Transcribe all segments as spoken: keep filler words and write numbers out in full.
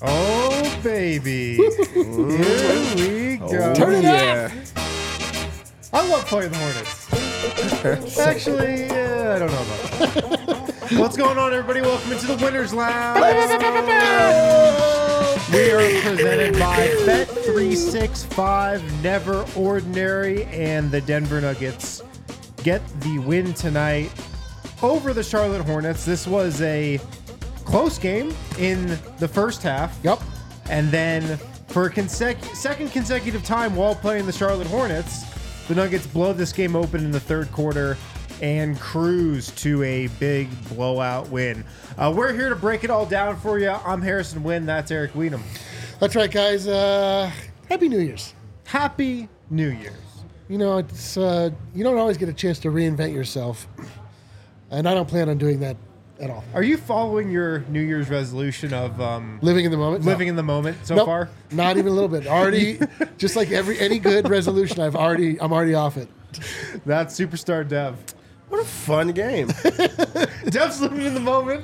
Oh, baby. Here we go. Oh, Turn it yeah. I love playing the Hornets. Actually, yeah, I don't know about that. What's going on, everybody? Welcome into the Winners Lounge. We are presented by Bet three sixty-five, Never Ordinary, and the Denver Nuggets get the win tonight over the Charlotte Hornets. This was a close game in the first half. Yep. And then for a consec- second consecutive time while playing the Charlotte Hornets, the Nuggets blow this game open in the third quarter and cruise to a big blowout win. Uh, we're here to break it all down for you. I'm Harrison Wynn. That's Eric Weedham. That's right, guys. Uh, Happy New Year's. Happy New Year's. You know, it's uh, you don't always get a chance to reinvent yourself, and I don't plan on doing that at all. Are you following your New Year's resolution of um, Living in the moment. living No. in the moment so Nope, far? Not even a little bit. Already, just like every any good resolution, I've already I'm already off it. That's Superstar Dev. What a fun game. Dev's living in the moment.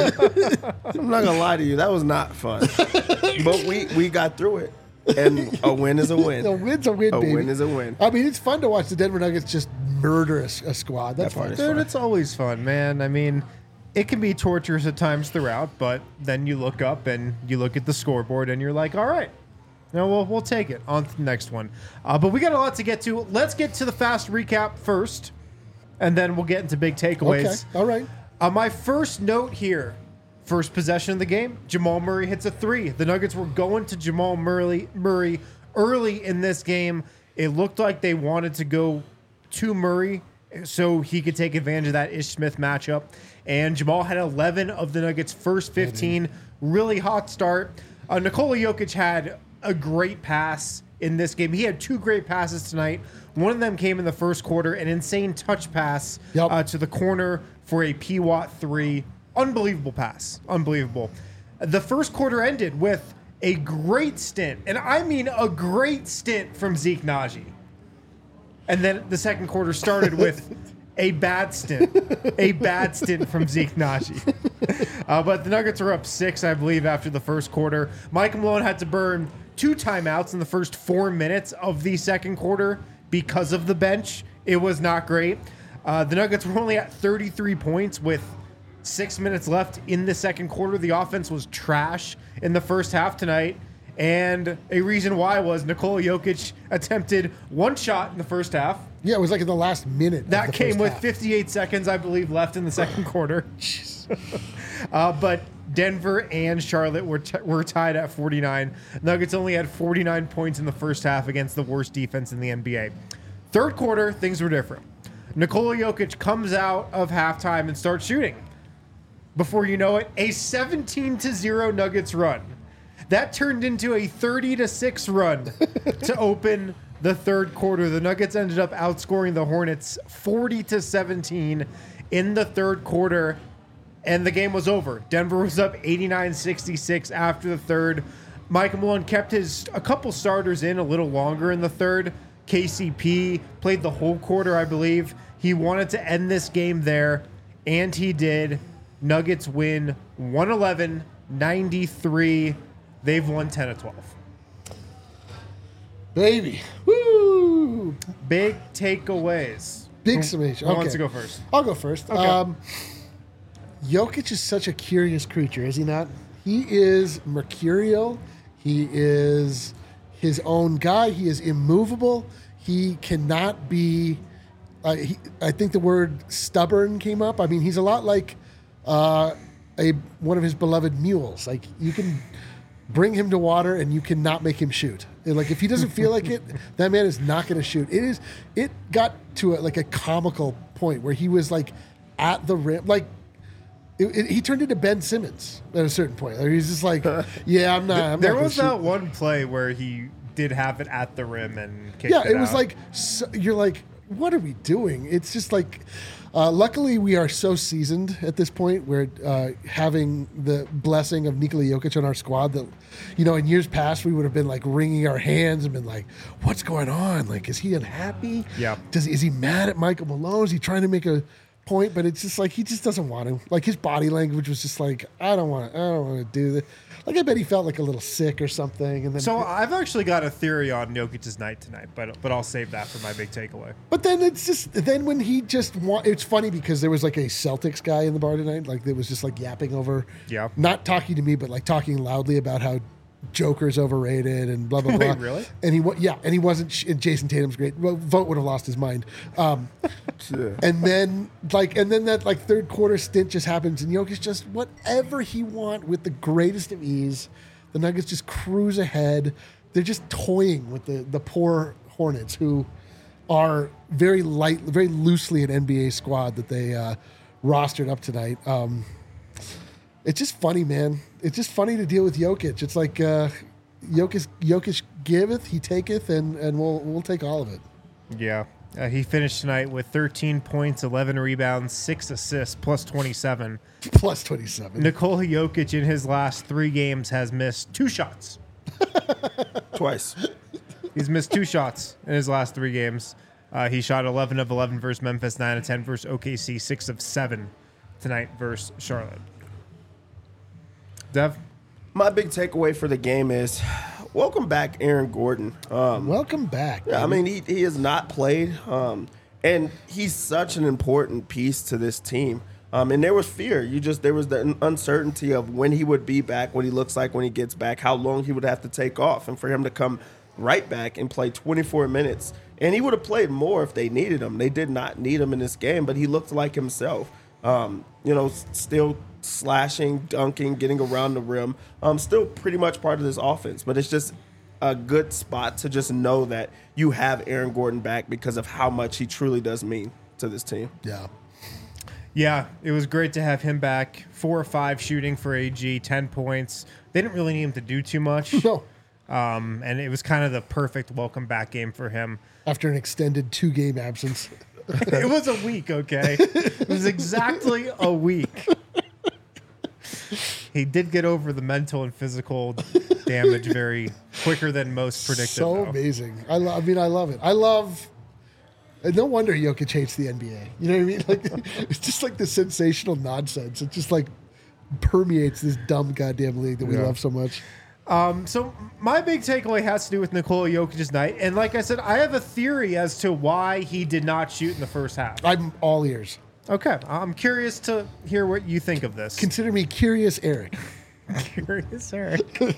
I'm not going to lie to you. That was not fun. But we, we got through it. And a win is a win. A win's a win, A baby. win is a win. I mean, it's fun to watch the Denver Nuggets just murder a, a squad. That's That part fun. is Dude, fun. it's always fun, man. I mean, it can be torturous at times throughout, but then you look up and you look at the scoreboard and you're like, all right, no, we'll, we'll take it. On to the next one. Uh, but we got a lot to get to. Let's get to the fast recap first, and then we'll get into big takeaways. Okay, all right. Uh, my first note here, first possession of the game, Jamal Murray hits a three. The Nuggets were going to Jamal Murray, Murray early in this game. It looked like they wanted to go to Murray so he could take advantage of that Ish Smith matchup. And Jamal had eleven of the Nuggets' first fifteen. Really hot start. Uh, Nikola Jokic had a great pass in this game. He had two great passes tonight. One of them came in the first quarter, an insane touch pass Yep. uh, to the corner for a P W A T three. Unbelievable pass. Unbelievable. The first quarter ended with a great stint, and I mean a great stint from Zeke Naji. And then the second quarter started with a bad stint. A bad stint from Zeke Naji. Uh, but the Nuggets were up six, I believe, after the first quarter. Mike Malone had to burn two timeouts in the first four minutes of the second quarter because of the bench. It was not great. Uh, the Nuggets were only at thirty-three points with six minutes left in the second quarter. The offense was trash in the first half tonight. And a reason why was Nikola Jokic attempted one shot in the first half. Yeah, it was like in the last minute. of That the came first with half. fifty-eight seconds, I believe, left in the second quarter. uh, but Denver and Charlotte were t- were tied at forty-nine. Nuggets only had forty-nine points in the first half against the worst defense in the N B A. Third quarter, things were different. Nikola Jokic comes out of halftime and starts shooting. Before you know it, a seventeen to zero Nuggets run. That turned into a thirty to six run to open the third quarter. The Nuggets ended up outscoring the Hornets forty to seventeen in the third quarter, and the game was over. Denver was up eighty-nine sixty-six after the third. Mike Malone kept his a couple starters in a little longer in the third. K C P played the whole quarter, I believe. He wanted to end this game there, and he did. Nuggets win one eleven ninety-three. They've won ten of twelve. Baby. Woo! Big takeaways. Big Who- summation. Who Okay. wants to go first? I'll go first. Okay. Um, Jokic is such a curious creature, is he not? He is mercurial. He is his own guy. He is immovable. He cannot be. Uh, he, I think the word stubborn came up. I mean, he's a lot like uh, a one of his beloved mules. Like you can bring him to water and you cannot make him shoot. And, like if he doesn't feel like it, that man is not going to shoot. It is. It got to a, like a comical point where he was like at the rim, like. It, it, he turned into Ben Simmons at a certain point. Like, he's just like, yeah, I'm not. I'm There not gonna was shoot. that one play where he did have it at the rim and kicked Yeah, it it was out. like so, you're like, what are we doing? It's just like, uh, luckily we are so seasoned at this point. We're uh, having the blessing of Nikola Jokic on our squad that, you know, in years past we would have been like wringing our hands and been like, what's going on? Like, is he unhappy? Yeah. Does is he mad at Michael Malone? Is he trying to make a point, but it's just like he just doesn't want to. Like his body language was just like, I don't want to. I don't want to do this. Like I bet he felt like a little sick or something. And then So I've actually got a theory on Jokic's night tonight, but but I'll save that for my big takeaway. But then it's just then when he just want, it's funny because there was like a Celtics guy in the bar tonight, like that was just like yapping over, Yeah. not talking to me, but like talking loudly about how Joker's overrated and blah blah blah. Wait, really? And he wa- yeah, and he wasn't. sh- And Jason Tatum's great. Well, Vogt would have lost his mind. Um, Yeah. and then like and then that like third quarter stint just happens, and Jokic just whatever he want with the greatest of ease. The Nuggets just cruise ahead. They're just toying with the the poor Hornets, who are very light, very loosely an N B A squad that they uh, rostered up tonight. Um, it's just funny, man. It's just funny to deal with Jokic. It's like uh, Jokic, Jokic giveth, he taketh, and and we'll we'll take all of it. Yeah. Uh, he finished tonight with thirteen points, eleven rebounds, six assists, plus twenty-seven. Plus twenty-seven. Nikola Jokic in his last three games has missed two shots. Twice. He's missed two shots in his last three games. Uh, he shot eleven of eleven versus Memphis, nine of ten versus O K C, six of seven tonight versus Charlotte. Dev? My big takeaway for the game is welcome back, Aaron Gordon. Um, Welcome back. Yeah, I baby. mean, he, he has not played, um, and he's such an important piece to this team. Um, and there was fear. You just there was the uncertainty of when he would be back, what he looks like when he gets back, how long he would have to take off, and for him to come right back and play twenty-four minutes. And he would have played more if they needed him. They did not need him in this game, but he looked like himself. Um, you know, s- still slashing, dunking, getting around the rim. Um, still pretty much part of this offense, but it's just a good spot to just know that you have Aaron Gordon back because of how much he truly does mean to this team. yeah. Yeah, it was great to have him back. Four or five shooting for A G, ten points. They didn't really need him to do too much. No. Um, and it was kind of the perfect welcome back game for him. After an extended two game absence. It was a week, okay? It was exactly a week. He did get over the mental and physical damage very quicker than most predicted. So though. amazing. I, lo- I mean, I love it. I love. And no wonder Jokic hates the N B A. You know what I mean? Like, it's just like the sensational nonsense. It just like permeates this dumb goddamn league that we Yeah. love so much. Um, so my big takeaway has to do with Nikola Jokic's night. And like I said, I have a theory as to why he did not shoot in the first half. I'm all ears. Okay, I'm curious to hear what you think of this. Consider me curious, Eric. Curious, Eric.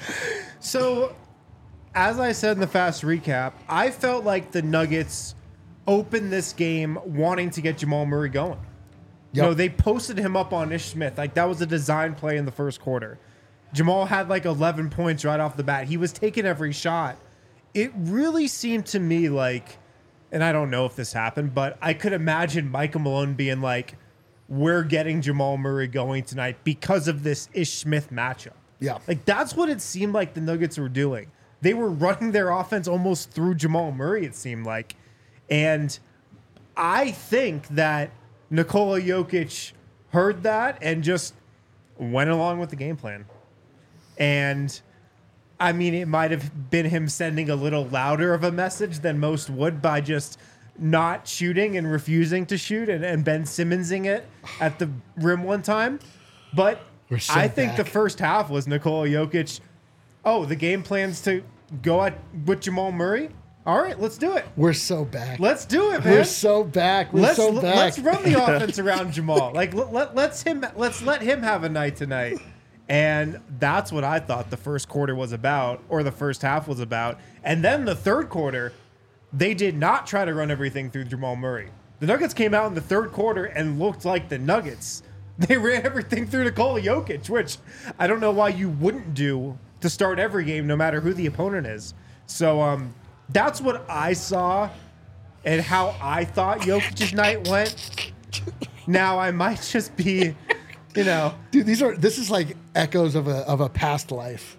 So, as I said in the fast recap, I felt like the Nuggets opened this game wanting to get Jamal Murray going. You Yep. know, they posted him up on Ish Smith. Like, that was a design play in the first quarter. Jamal had like eleven points right off the bat. He was taking every shot. It really seemed to me like, and I don't know if this happened, but I could imagine Michael Malone being like, we're getting Jamal Murray going tonight because of this Ish Smith matchup. Yeah. Like, that's what it seemed like the Nuggets were doing. They were running their offense almost through Jamal Murray, it seemed like. And I think that Nikola Jokic heard that and just went along with the game plan. And I mean, it might have been him sending a little louder of a message than most would by just not shooting and refusing to shoot and, and Ben Simmonsing it at the rim one time. But We're so I think back. the first half was Nikola Jokic. Oh, the game plan's to go at with Jamal Murray. All right, let's do it. We're so back. Let's do it, man. We're so back. We're let's so back. let's run the offense around Jamal. Like let, let let's him let's let him have a night tonight. And that's what I thought the first quarter was about, or the first half was about. And then the third quarter, they did not try to run everything through Jamal Murray. The Nuggets came out in the third quarter and looked like the Nuggets. They ran everything through Nikola Jokic, which I don't know why you wouldn't do to start every game, no matter who the opponent is. So um, that's what I saw and how I thought Jokic's night went. Now I might just be, you know, Dude, these are this is like echoes of a of a past life.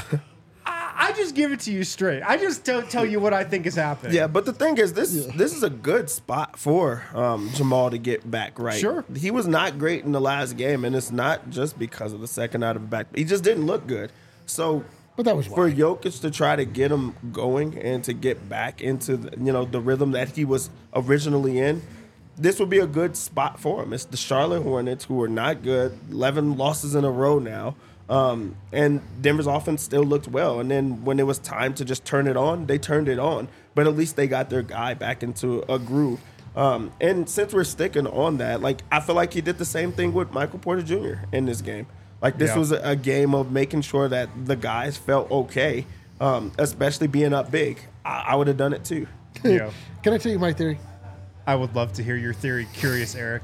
I, I just give it to you straight. I just tell, tell you what I think is happening. Yeah, but the thing is, this this is a good spot for um, Jamal to get back right. Sure. He was not great in the last game, and it's not just because of the second out of the back. He just didn't look good. So But that was for why. Jokic to try to get him going and to get back into the, you know the rhythm that he was originally in, this would be a good spot for him. It's the Charlotte Hornets, who are not good, eleven losses in a row now. Um, and Denver's offense still looked well. And then when it was time to just turn it on, they turned it on. But at least they got their guy back into a groove. Um, and since we're sticking on that, like I feel like he did the same thing with Michael Porter Junior in this game. Like this Yeah. was a, a game of making sure that the guys felt okay, um, especially being up big. I, I would have done it too. Yeah. Can I tell you my theory? I would love to hear your theory. Curious, Eric.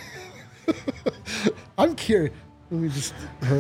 I'm curious. Let me just.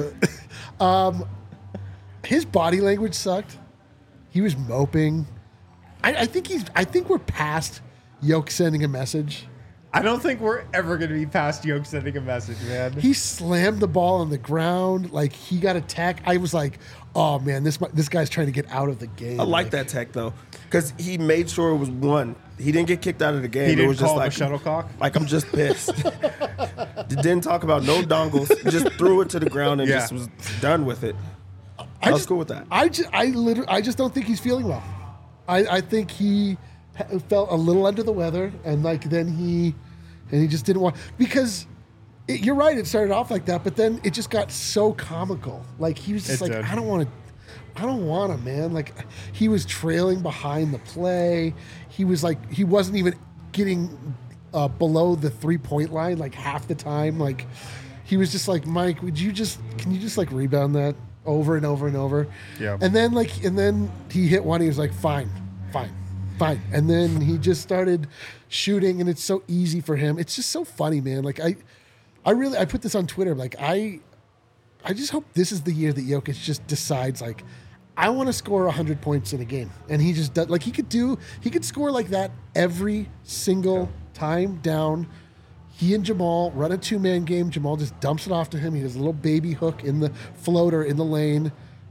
um, his body language sucked. He was moping. I, I think he's. I think we're past Yoke sending a message. I don't think we're ever going to be past Yoke sending a message, man. He slammed the ball on the ground. Like he got attacked. I was like, oh man, this this guy's trying to get out of the game. I like that tech though, because he made sure it was one. He didn't get kicked out of the game. He it didn't was just call him like a shuttlecock? Like I'm just pissed. Didn't talk about no dongles. Just threw it to the ground and Yeah. just was done with it. I I was just, cool with that. I just, I literally, I just don't think he's feeling well. I, I think he ha- felt a little under the weather, and like then he, and he just didn't want because. It, you're right. It started off like that, but then it just got so comical. Like he was just It like, did. I don't want to. I don't want to, man. Like he was trailing behind the play. He was like he wasn't even getting uh, below the three point line like half the time. Like he was just like, Mike, would you just can you just like rebound that over and over and over? Yeah. And then like and then he hit one. He was like, fine, fine, fine. And then he just started shooting, and it's so easy for him. It's just so funny, man. Like I, I really I put this on Twitter. Like I. I just hope this is the year that Jokic just decides, like, I want to score one hundred points in a game. And he just does, like, he could do, he could score like that every single time down. He and Jamal run a two-man game. Jamal just dumps it off to him. He does a little baby hook in the floater in the lane.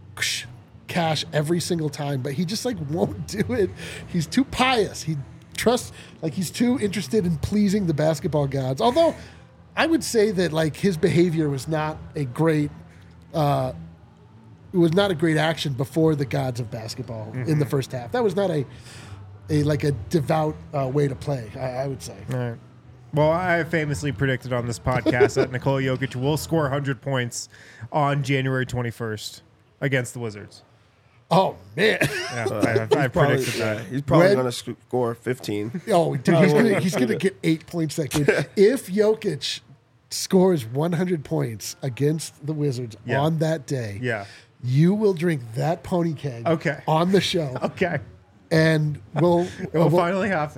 Cash every single time. But he just, like, won't do it. He's too pious. He trusts, like, he's too interested in pleasing the basketball gods. Although, I would say that, like, his behavior was not a great Uh, it was not a great action before the gods of basketball Mm-hmm. in the first half. That was not a, a like a devout uh, way to play. I, I would say. All right. Well, I famously predicted on this podcast that Nikola Jokic will score one hundred points on January twenty-first against the Wizards. Oh man! Yeah, I, I, I Probably, predicted yeah, that. he's probably When- going to score fifteen. Oh, dude, he's gonna he's gonna get eight points that game. If Jokic scores one hundred points against the Wizards Yeah. on that day, Yeah. you will drink that pony keg Okay. on the show, Okay. and we'll. It will we'll- finally happen.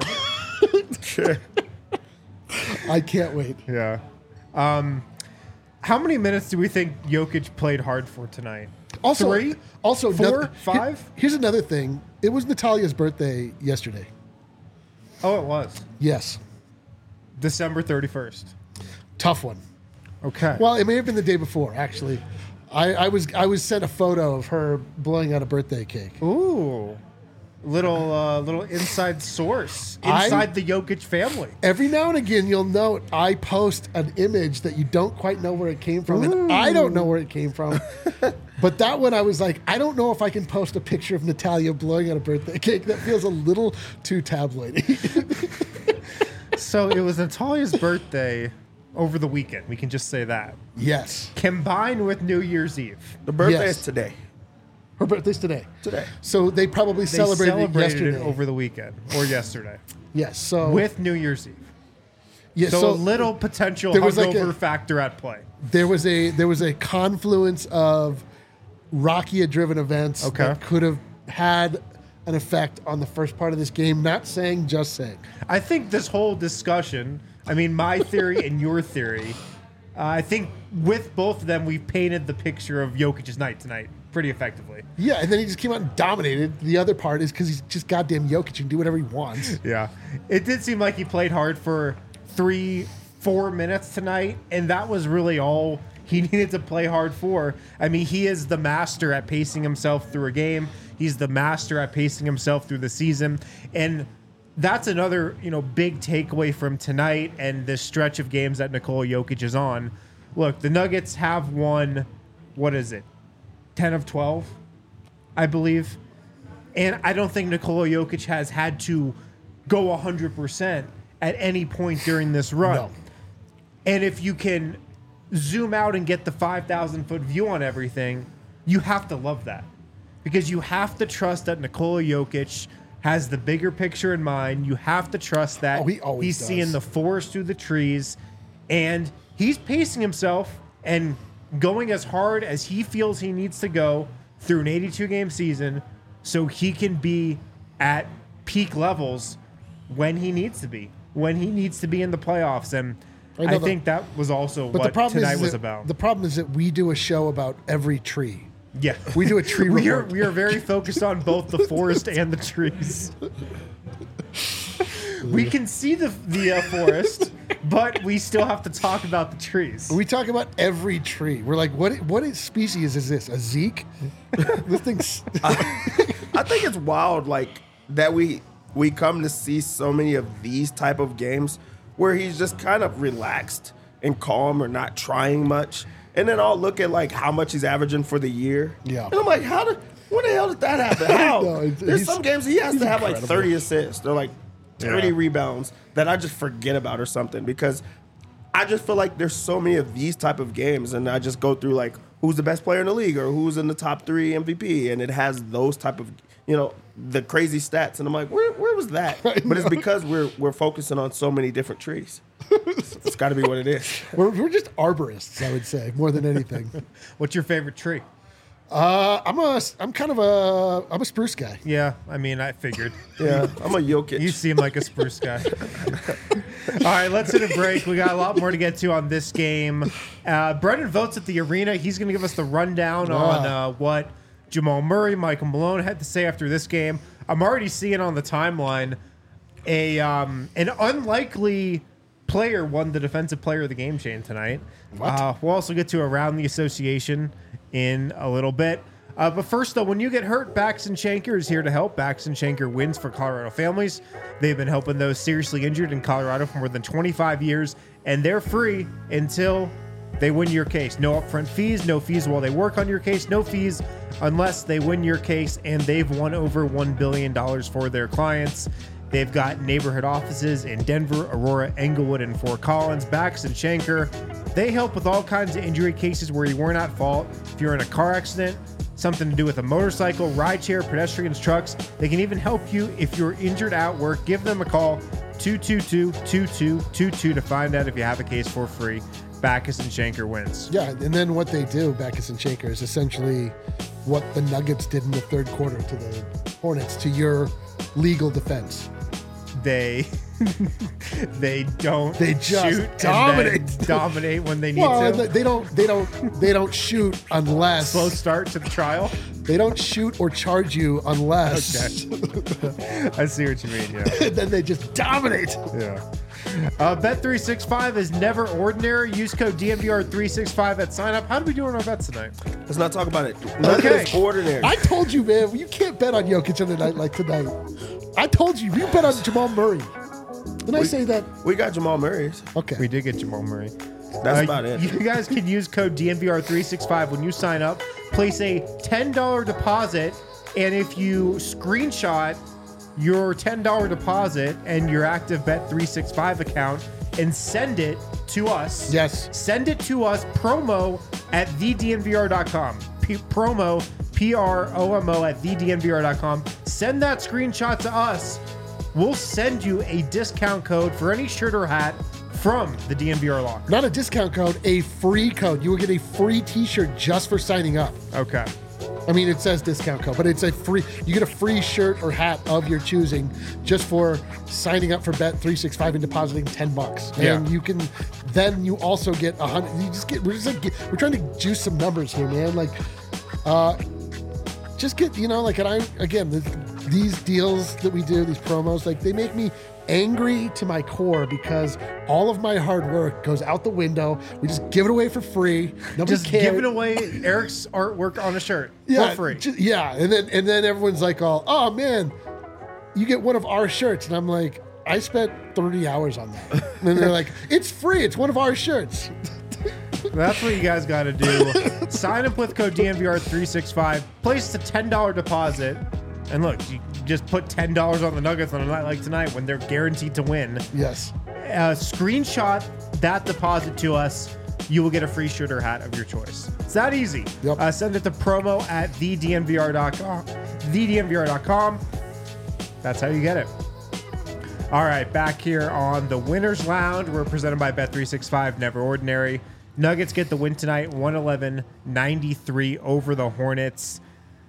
I can't wait. Yeah. Um, how many minutes do we think Jokic played hard for tonight? Also, Three? also Four? noth- Five? here- here's another thing. It was Natalia's birthday yesterday. Oh, it was. Yes, December thirty-first. tough one. Okay. Well, it may have been the day before. Actually, I, I was I was sent a photo of her blowing out a birthday cake. Ooh. Little uh, little inside source I- inside the Jokic family. Every now and again, you'll note I post an image that you don't quite know where it came from, and I don't know where it came from. But that one, I was like, I don't know if I can post a picture of Natalia blowing out a birthday cake. That feels a little too tabloidy. So it was Natalia's birthday over the weekend. We can just say that. Yes, Combined with New Year's Eve. The birthday Yes. is today. her birthday's today. Today. So they probably They celebrated, celebrated it yesterday. it over the weekend or yesterday Yes. So with New Year's Eve. yeah, So, so a little potential there was like hungover a- factor at play. there was a there was a confluence of Rakia-driven events Okay. that could have had an effect on the first part of this game. Not saying, just saying. I think this whole discussion, I mean, my theory and your theory, uh, I think with both of them, we've painted the picture of Jokic's night tonight pretty effectively. Yeah, and then he just came out and dominated. The other part is because he's just goddamn Jokic and can do whatever he wants. Yeah. It did seem like he played hard for three, four minutes tonight, and that was really all he needed to play hard for. I mean, he is the master at pacing himself through a game. He's the master at pacing himself through the season. And that's another, you know, big takeaway from tonight and this stretch of games that Nikola Jokic is on. Look, the Nuggets have won, what is it, ten of twelve, I believe. And I don't think Nikola Jokic has had to go one hundred percent at any point during this run. No. And if you can zoom out and get the five thousand foot view on everything, you have to love that. Because you have to trust that Nikola Jokic has the bigger picture in mind. You have to trust that Oh, he always he's does. seeing the forest through the trees, and he's pacing himself and going as hard as he feels he needs to go through an eighty-two game season so he can be at peak levels when he needs to be, when he needs to be in the playoffs. And I I, know the- think that was also But what the problem tonight is was that, about. The problem is that we do a show about every tree. Yeah. We do a tree we are report. we are very focused on both the forest and the trees. We can see the the uh, forest, but we still have to talk about the trees. We talk about every tree. We're like, what? What species is this? A Zeke? This thing's. I think it's wild, like that we we come to see so many of these type of games where he's just kind of relaxed and calm or not trying much, and then I'll look at like how much he's averaging for the year. Yeah. and I'm like, how did? When the hell did that happen? How? No, it's- There's he's- some games he has he's to have like incredible. thirty assists or like thirty Yeah. rebounds that I just forget about or something because I just feel like there's so many of these type of games, and I just go through like who's the best player in the league or who's in the top three M V P, and it has those type of, you know, the crazy stats, and I'm like, where where was that? But it's because we're we're focusing on so many different trees. It's got to be what it is. We're, we're just arborists, I would say, more than anything. What's your favorite tree? Uh, I'm a. I'm kind of a. I'm a spruce guy. Yeah, I mean, I figured. Yeah, I'm a Jokic. You seem like a spruce guy. All right, let's hit a break. We got a lot more to get to on this game. Uh, Brendan Votes at the arena. He's going to give us the rundown on uh, what Jamal Murray, Michael Malone had to say after this game. I'm already seeing on the timeline a um, an unlikely player won the defensive player of the game chain tonight. Uh, we'll also get to around the association in a little bit. Uh, but first, though, when you get hurt, Baxton Shanker is here to help. Baxton Shanker wins for Colorado families. They've been helping those seriously injured in Colorado for more than twenty-five years, and they're free until they win your case. No upfront fees, no fees while they work on your case, no fees unless they win your case, and they've won over one billion dollars for their clients. They've got neighborhood offices in Denver, Aurora, Englewood, and Fort Collins. Baxton Shanker, they help with all kinds of injury cases where you weren't at fault. If you're in a car accident, something to do with a motorcycle, rideshare, pedestrians, trucks, they can even help you if you're injured at work. Give them a call, two two two, two two two two, to find out if you have a case for free. Backus and Shanker wins. Yeah, and then what they do, Backus and Shanker, is essentially what the Nuggets did in the third quarter to the Hornets to your legal defense. They they don't They just shoot dominate. and then dominate when they need Well, to. they they don't. They don't. They don't shoot unless Slow start to the trial. they don't shoot or charge you unless. Okay. I see what you mean, yeah. And then they just dominate. Yeah. Uh, Bet three sixty-five is never ordinary. Use code D M V R three sixty-five at sign up. How do we do on our bets tonight? Let's not talk about it. None Okay. of it's ordinary. I told you, man, you can't bet on Jokic on a night like tonight. I told you, you bet on Jamal Murray. Didn't I say that? we got Jamal Murray's. Okay. We did get Jamal Murray. That's Uh, about it. You guys can use code D M V R three sixty-five when you sign up. Place a ten dollar deposit, and if you screenshot your ten dollar deposit and your active Bet three sixty-five account and send it to us. Yes. Send it to us, promo at the D N V R dot com. P- promo, P R O M O, at the D N V R dot com. Send that screenshot to us. We'll send you a discount code for any shirt or hat from the D N V R locker. Not a discount code, a free code. You will get a free T-shirt just for signing up. Okay. I mean, it says discount code, but it's a free. You get a free shirt or hat of your choosing just for signing up for Bet three sixty-five and depositing ten bucks. And Yeah. you can, then you also get a hundred. You just get. We're just like we're trying to juice some numbers here, man. Like, uh, just get you know, like, and I again, the, these deals that we do, these promos, like they make me angry to my core because all of my hard work goes out the window. We just give it away for free. Nobody Just cares. giving away Eric's artwork on a shirt yeah, for free. ju- yeah, and then and then everyone's like, "Oh, oh man, you get one of our shirts," and I'm like, "I spent thirty hours on that," and they're like, "It's free. It's one of our shirts." That's what you guys got to do. Sign up with code D N V R three sixty-five. Place a ten dollar deposit. And look, you, just put ten dollars on the Nuggets on a night like tonight when they're guaranteed to win. Yes. Uh, screenshot that deposit to us. You will get a free shooter hat of your choice. It's that easy. Yep. Uh, send it to promo at the d n v r dot com. the d n v r dot com. That's how you get it. All right, back here on the Winners Lounge. We're presented by Bet three sixty-five, Never Ordinary. Nuggets get the win tonight, one eleven ninety-three over the Hornets.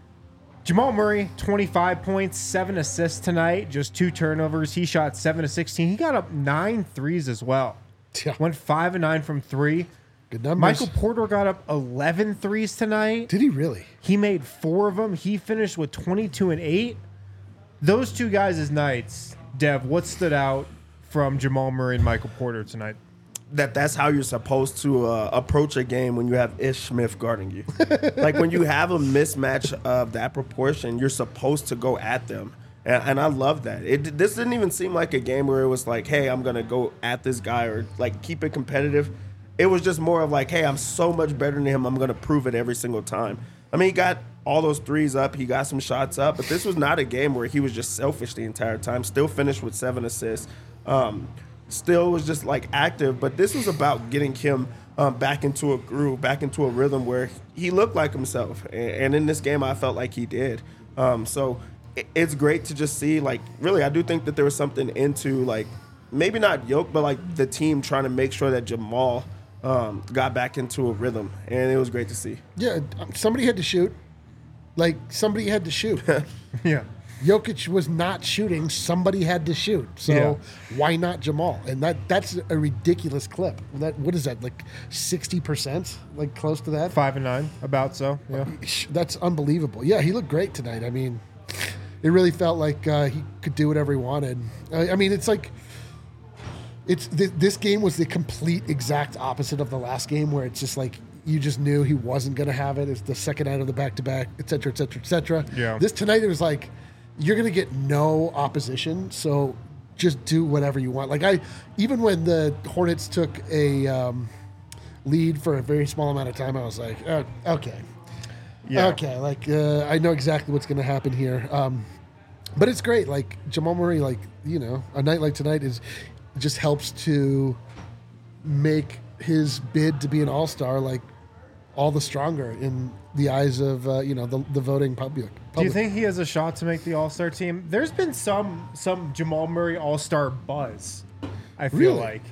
Jamal Murray, twenty-five points, seven assists tonight, just two turnovers. He shot seven to sixteen. He got up nine threes as well. Yeah. Went five and nine from three. Good numbers. Michael Porter got up eleven threes tonight. Did he really? He made four of them. He finished with twenty-two and eight. Those two guys' nights, Dev, what stood out from Jamal Murray and Michael Porter tonight? That that's how you're supposed to uh, approach a game when you have Ish Smith guarding you. Like when you have a mismatch of that proportion, you're supposed to go at them. And, and I love that. It This didn't even seem like a game where it was like, hey, I'm going to go at this guy or like keep it competitive. It was just more of like, hey, I'm so much better than him. I'm going to prove it every single time. I mean, he got all those threes up. He got some shots up. But this was not a game where he was just selfish the entire time. Still finished with seven assists. Um, still was just like active. But this was about getting him um, back into a groove, back into a rhythm where he looked like himself. And, and in this game, I felt like he did. Um, so it, it's great to just see, like, really, I do think that there was something into, like, maybe not Yoke, but like the team trying to make sure that Jamal um, got back into a rhythm. And it was great to see. Yeah, somebody had to shoot. Like, somebody had to shoot. Yeah. Jokic was not shooting. Somebody had to shoot. So Yeah. why not Jamal? And that that's a ridiculous clip. That What is that, like sixty percent? Like close to that? Five and nine, about so. Yeah. That's unbelievable. Yeah, he looked great tonight. I mean, it really felt like uh, he could do whatever he wanted. I, I mean, it's like, it's th- this game was the complete exact opposite of the last game where it's just like, you just knew he wasn't going to have it. It's the second night of the back-to-back, et cetera, et cetera, et cetera. Yeah. This tonight, it was like, you're going to get no opposition, so just do whatever you want. Like, I, even when the Hornets took a um, lead for a very small amount of time, I was like, oh, okay. Yeah. Okay, like, uh, I know exactly what's going to happen here. Um, but it's great. Like, Jamal Murray, like, you know, a night like tonight is just helps to make his bid to be an all-star, like, all the stronger in the eyes of uh, you know the, the voting public. public. Do you think he has a shot to make the All-Star team? There's been some some Jamal Murray All-Star buzz, I feel Really? like,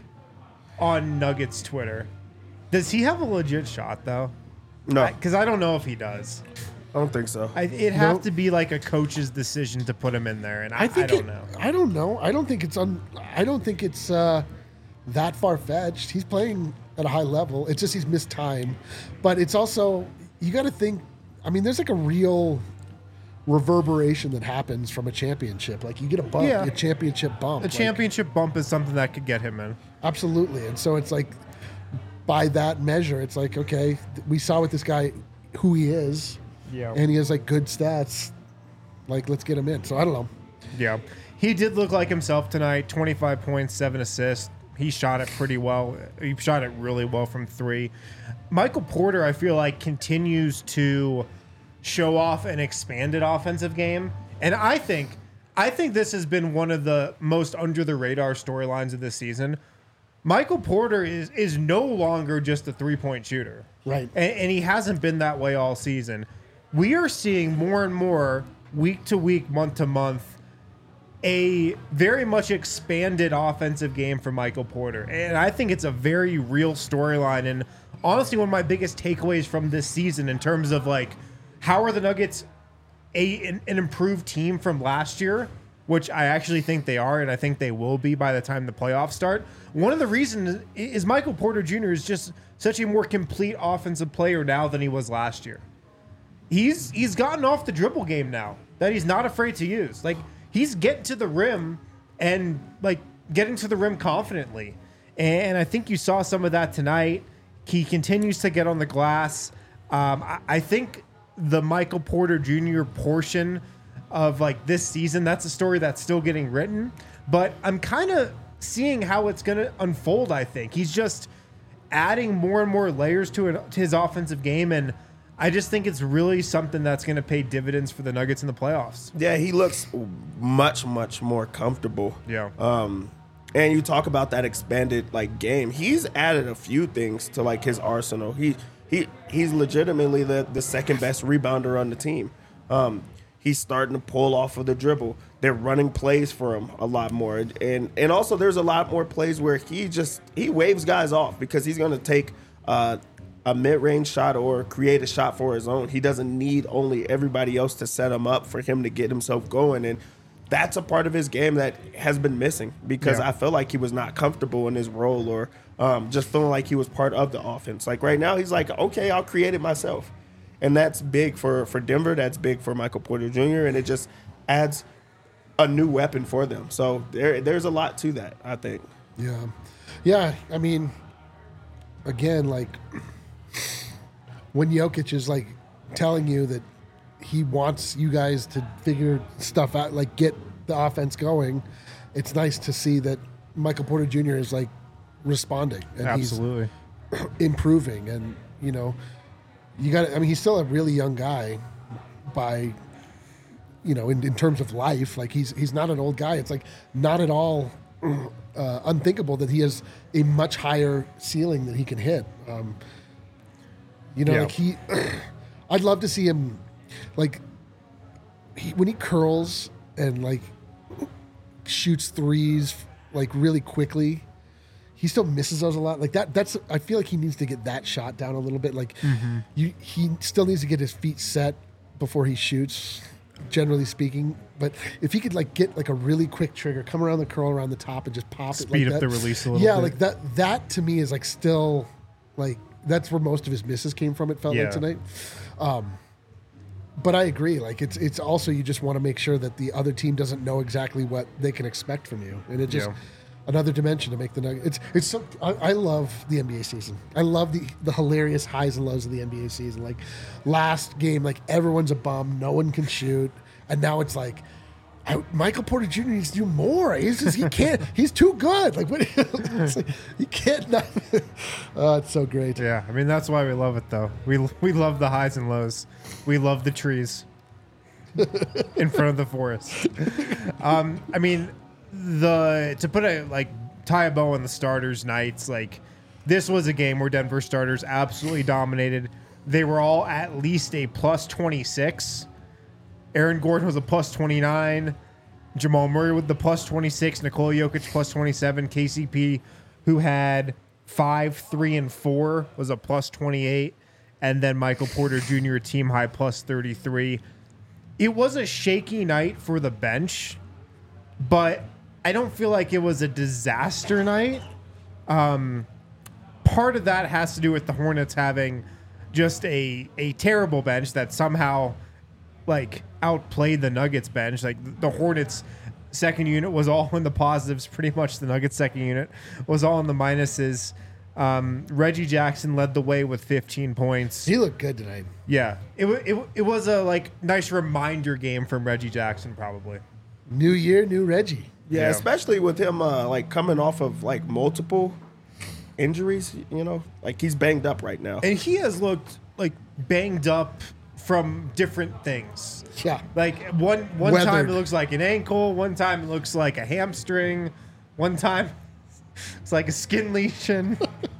on Nuggets Twitter. Does he have a legit shot, though? No, Because I, I don't know if he does. I don't think so. I, it'd have Nope. to be like a coach's decision to put him in there, and I, I think I don't it- know. I don't know. I don't think it's un. I don't think it's uh, that far fetched. He's playing at a high level. It's just he's missed time, but it's also you got to think. I mean, there's like a real reverberation that happens from a championship. Like you get a bump, Yeah. a championship bump. A Like, championship bump is something that could get him in. Absolutely. And so it's like, by that measure, it's like, okay, th- we saw with this guy who he is, Yeah. and he has like good stats. Like, let's get him in. So I don't know. Yeah. He did look like himself tonight. twenty-five points, seven assists. He shot it pretty well. He shot it really well from three. Michael Porter, I feel like, continues to show off an expanded offensive game. And I think I think this has been one of the most under the radar storylines of this season. Michael Porter is is no longer just a three-point shooter. Right. And, and he hasn't been that way all season. We are seeing more and more week to week, month to month, a very much expanded offensive game for Michael Porter. And I think it's a very real storyline. And honestly, one of my biggest takeaways from this season in terms of like, how are the Nuggets a an, an improved team from last year, which I actually think they are, and I think they will be by the time the playoffs start. One of the reasons is Michael Porter Junior is just such a more complete offensive player now than he was last year. He's he's gotten off the dribble game now that he's not afraid to use. Like, he's getting to the rim and like getting to the rim confidently. And I think you saw some of that tonight. He continues to get on the glass. Um, I, I think the Michael Porter Junior portion of like this season, that's a story that's still getting written. But I'm kind of seeing how it's going to unfold, I think. He's just adding more and more layers to, it, to his offensive game. And I just think it's really something that's going to pay dividends for the Nuggets in the playoffs. Yeah, he looks much, much more comfortable. Yeah. Um, and you talk about that expanded like game. He's added a few things to like his arsenal. He he he's legitimately the, the second best rebounder on the team. Um, he's starting to pull off of the dribble. They're running plays for him a lot more. And and also there's a lot more plays where he just he waves guys off because he's gonna take uh a mid-range shot or create a shot for his own. He doesn't need only everybody else to set him up for him to get himself going. And that's a part of his game that has been missing because Yeah. I feel like he was not comfortable in his role or um, just feeling like he was part of the offense. Like right now, he's like, okay, I'll create it myself. And that's big for, for Denver. That's big for Michael Porter Junior And it just adds a new weapon for them. So there, there's a lot to that, I think. Yeah. Yeah. I mean, again, like when Jokic is like telling you that he wants you guys to figure stuff out, like get the offense going, it's nice to see that Michael Porter Junior is like responding and Absolutely. he's improving. And, you know, you got I mean, he's still a really young guy by, you know, in, in terms of life. Like he's he's not an old guy. It's like not at all uh, unthinkable that he has a much higher ceiling that he can hit. Um, you know, Yeah. like he, I'd love to see him, like, he, when he curls and like shoots threes like really quickly. He still misses those a lot. Like that. That's. I feel like he needs to get that shot down a little bit. Like Mm-hmm. you, he still needs to get his feet set before he shoots. Generally speaking, but if he could like get like a really quick trigger, come around the curl around the top and just pop it, Speed like up that. the release a little Yeah, bit. like that. That to me is like still like that's where most of his misses came from. It felt Yeah. like tonight. Um, but I agree. Like it's it's also you just want to make sure that the other team doesn't know exactly what they can expect from you, and it just Yeah. another dimension to make the Nuggets. It's it's so I, I love the N B A season. I love the the hilarious highs and lows of the N B A season. Like last game, like everyone's a bum, no one can shoot, and now it's like. I, Michael Porter Junior needs to do more. He's just, he can't. He's too good. Like what? It's like, he can't. Not, oh, it's so great. Yeah, I mean that's why we love it though. We we love the highs and lows. We love the trees in front of the forest. Um, I mean, the to put a like tie a bow on the starters' nights. Like this was a game where Denver starters absolutely dominated. They were all at least a plus twenty-six. Aaron Gordon was a plus twenty-nine. Jamal Murray with the plus twenty-six. Nikola Jokic plus twenty-seven. K C P, who had five, three, and four, was a plus twenty-eight. And then Michael Porter Junior, team high plus thirty-three. It was a shaky night for the bench, but I don't feel like it was a disaster night. Um, part of that has to do with the Hornets having just a, a terrible bench that somehow like outplayed the Nuggets bench. Like the Hornets second unit was all in the positives. Pretty much the Nuggets second unit was all in the minuses. Um, Reggie Jackson led the way with fifteen points. He looked good tonight. Yeah, it, wa- it, wa- it was a like nice reminder game from Reggie Jackson probably. New year, new Reggie. Yeah, Yeah. especially with him uh, like coming off of like multiple injuries, you know, like he's banged up right now. And he has looked like banged up from different things. Yeah. Like one one time Weathered. it looks like an ankle, one time it looks like a hamstring, one time it's like a skin lesion.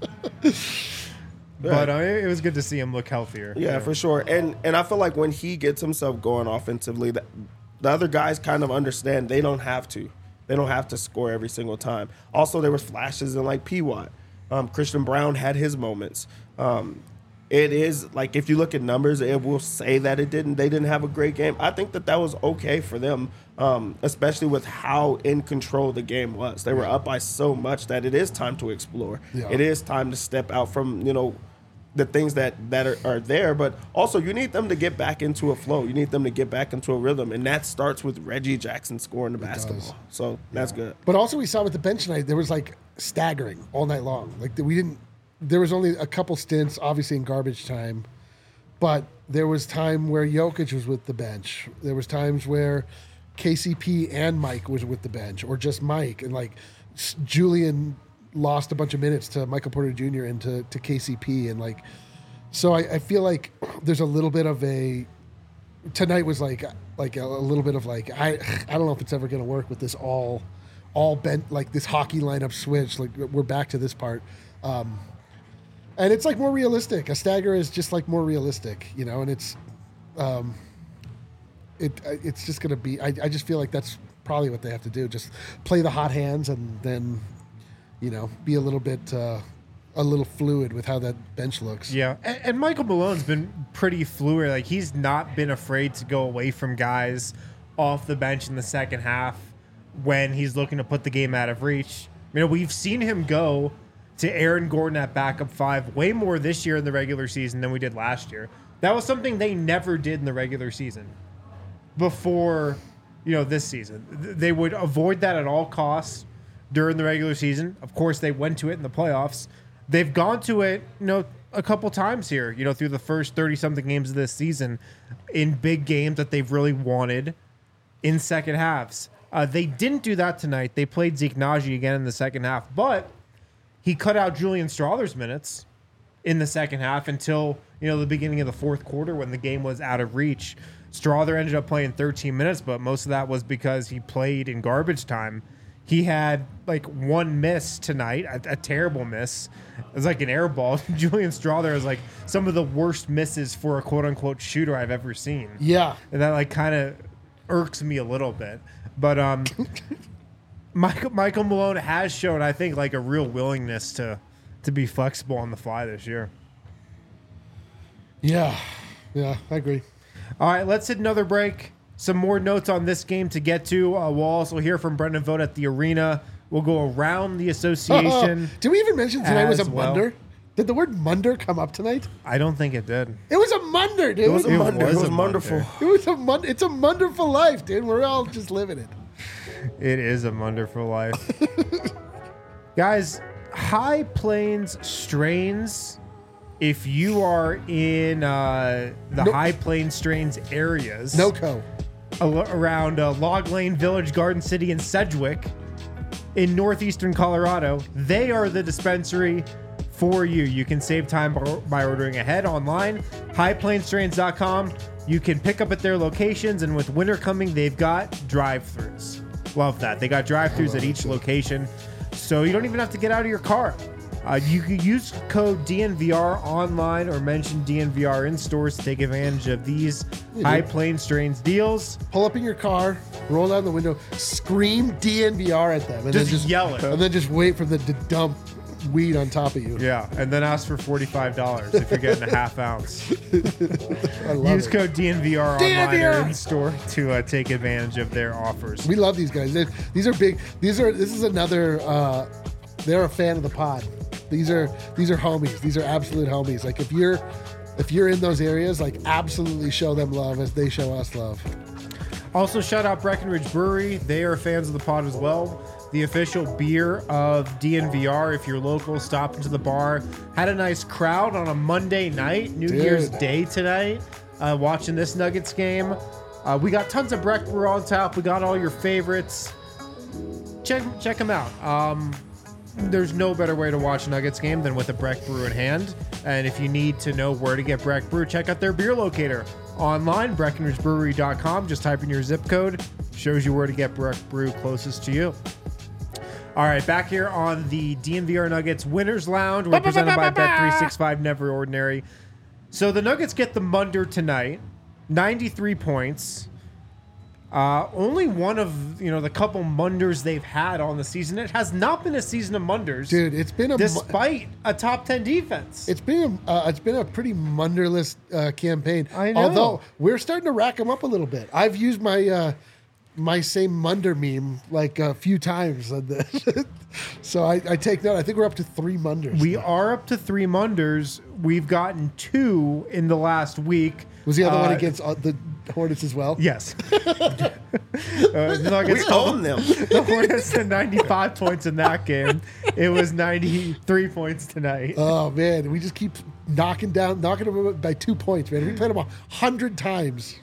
But uh, it it was good to see him look healthier. Yeah, for sure. And and I feel like when he gets himself going offensively, that the other guys kind of understand they don't have to. They don't have to score every single time. Also, there was flashes in like P. Watt. Um, Christian Brown had his moments. Um, it is like if you look at numbers, it will say that it didn't. They didn't have a great game. I think that that was okay for them, um, especially with how in control the game was. They were up by so much that it is time to explore. Yeah. It is time to step out from you know the things that that are, are there, but also you need them to get back into a flow. You need them to get back into a rhythm, and that starts with Reggie Jackson scoring the basketball. So that's good. But also we saw with the bench tonight, there was like staggering all night long. Like we didn't, there was only a couple stints, obviously in garbage time, but there was time where Jokic was with the bench. There was times where K C P and Mike was with the bench, or just Mike, and like s- Julian lost a bunch of minutes to Michael Porter Junior and to, to K C P, and like So I, I feel like there's a little bit of a tonight was like like a, a little bit of like I I don't know if it's ever going to work with this all all bent like this hockey lineup switch. Like we're back to this part. Um, and it's like more realistic. A stagger is just like more realistic, you know, and it's um, it it's just going to be I, I just feel like that's probably what they have to do. Just play the hot hands and then, you know, be a little bit uh, a little fluid with how that bench looks. Yeah, and, and Michael Malone's been pretty fluid. Like he's not been afraid to go away from guys off the bench in the second half when he's looking to put the game out of reach. You know, we've seen him go to Aaron Gordon at backup five way more this year in the regular season than we did last year. That was something they never did in the regular season before, you know, this season. They would avoid that at all costs during the regular season. Of course, they went to it in the playoffs. They've gone to it, you know, a couple times here, you know, through the first thirty-something games of this season in big games that they've really wanted in second halves. Uh, they didn't do that tonight. They played Zeke Naji again in the second half, but he cut out Julian Strother's minutes in the second half until, you know, the beginning of the fourth quarter when the game was out of reach. Strother ended up playing thirteen minutes, but most of that was because he played in garbage time. He had like one miss tonight, a, a terrible miss. It was like an air ball. Julian Strother is like some of the worst misses for a quote unquote shooter I've ever seen. Yeah. And that like kind of irks me a little bit. But um, Michael, Michael Malone has shown, I think, like a real willingness to to be flexible on the fly this year. Yeah. Yeah, I agree. All right, let's hit another break. Some more notes on this game to get to. Uh, we'll also hear from Brendan Vogt at the arena. We'll go around the association. Did we even mention tonight was a as well. Munder? Did the word Munder come up tonight? I don't think it did. It was a Munder, dude. It was a It Munder. was It was a wonderful. Munder. It was a Munder. It's a wonderful life, dude. We're all just living it. It is a wonderful life. Guys, High Plains Strains, if you are in uh, the Nope. High Plains Strains areas, NoCo. al- around uh, Log Lane Village, Garden City, and Sedgwick in northeastern Colorado, they are the dispensary for you. You can save time by, by ordering ahead online, high plains strains dot com. You can pick up at their locations, and with winter coming, they've got drive-thrus. Love that. They got drive-thrus at each location, so you don't even have to get out of your car. Uh, you can use code D N V R online or mention D N V R in stores to take advantage of these High Plains Strains deals. Pull up in your car, roll down the window, scream D N V R at them, and Just then just yell it. and then just wait for them to dump weed on top of you. Yeah, and then ask for forty-five dollars if you're getting a half ounce. I love Use it. code D N V R D N V R online or in store to uh, take advantage of their offers. We love these guys. They- These are big. These are. This is another. Uh, they're a fan of the pod. These are. These are homies. These are absolute homies. Like if you're, if you're in those areas, like absolutely show them love as they show us love. Also, shout out Breckenridge Brewery. They are fans of the pod as well. The official beer of D N V R. If you're local, stop into the bar. Had a nice crowd on a Monday night, New Dude. Year's Day tonight, uh, watching this Nuggets game. Uh, we got tons of Breck Brew on tap. We got all your favorites. Check check them out. Um, there's no better way to watch a Nuggets game than with a Breck Brew in hand. And if you need to know where to get Breck Brew, check out their beer locator online, breckenridge brewery dot com. Just type in your zip code. Shows you where to get Breck Brew closest to you. All right, back here on the D N V R Nuggets Winners Lounge. We're presented by Bet three sixty-five, Never Ordinary. So the Nuggets get the Munder tonight, ninety-three points. Uh, only one of, you know, the couple Munders they've had on the season. It has not been a season of Munders, Dude, it's been a. mu- despite a top ten defense. It's been a, uh, it's been a pretty Munderless uh, campaign. I know. Although we're starting to rack them up a little bit. I've used my uh, my same Munder meme like a few times on this. So I, I take note. I think we're up to three Munders. We are up to three Munders. We've gotten two in the last week. Was the other one Uh, against uh, the Hornets as well? Yes. uh, the Nuggets We own them. The Hornets had ninety-five points in that game. It was ninety-three points tonight. Oh man, we just keep knocking down, knocking them by two points, man. We played them a hundred times.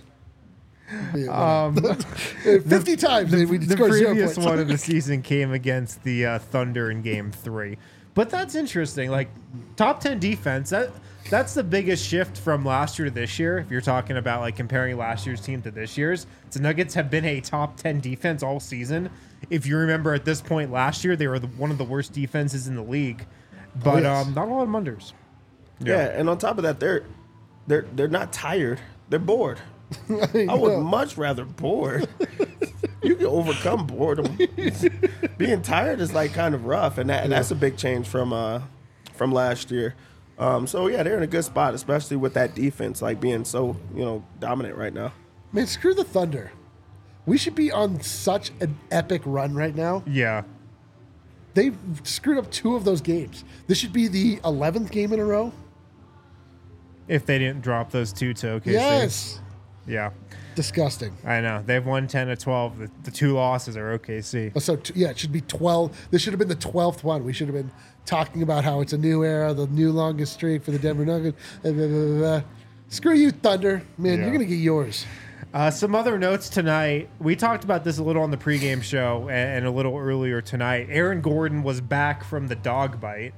Um, Fifty times. the, and we the scored zero previous points. one of the season came against the uh, Thunder in Game Three, but that's interesting. Like top ten defense. That that's the biggest shift from last year to this year. If you're talking about like comparing last year's team to this year's, the Nuggets have been a top ten defense all season. If you remember at this point last year, they were the, one of the worst defenses in the league, but oh, yes. um, not a lot of unders. Yeah. yeah, and on top of that, they're they're they're not tired. They're bored. I, I would much rather bored. You can overcome boredom. Being tired is like kind of rough, and that and that's a big change from uh from last year. Um, so yeah, they're in a good spot, especially with that defense like being so you know dominant right now. Man, screw the Thunder. We should be on such an epic run right now. Yeah. They've screwed up two of those games. This should be the eleventh game in a row. If they didn't drop those two to O K C. Yes. Yeah. Disgusting. I know. They've won ten to twelve. The, the two losses are O K C. Oh, so, t- yeah, it should be twelve. This should have been the twelfth one. We should have been talking about how it's a new era, the new longest streak for the Denver Nuggets. Blah, blah, blah, blah. Screw you, Thunder. Man, yeah. You're going to get yours. Uh, some other notes tonight. We talked about this a little on the pregame show and, and a little earlier tonight. Aaron Gordon was back from the dog bite.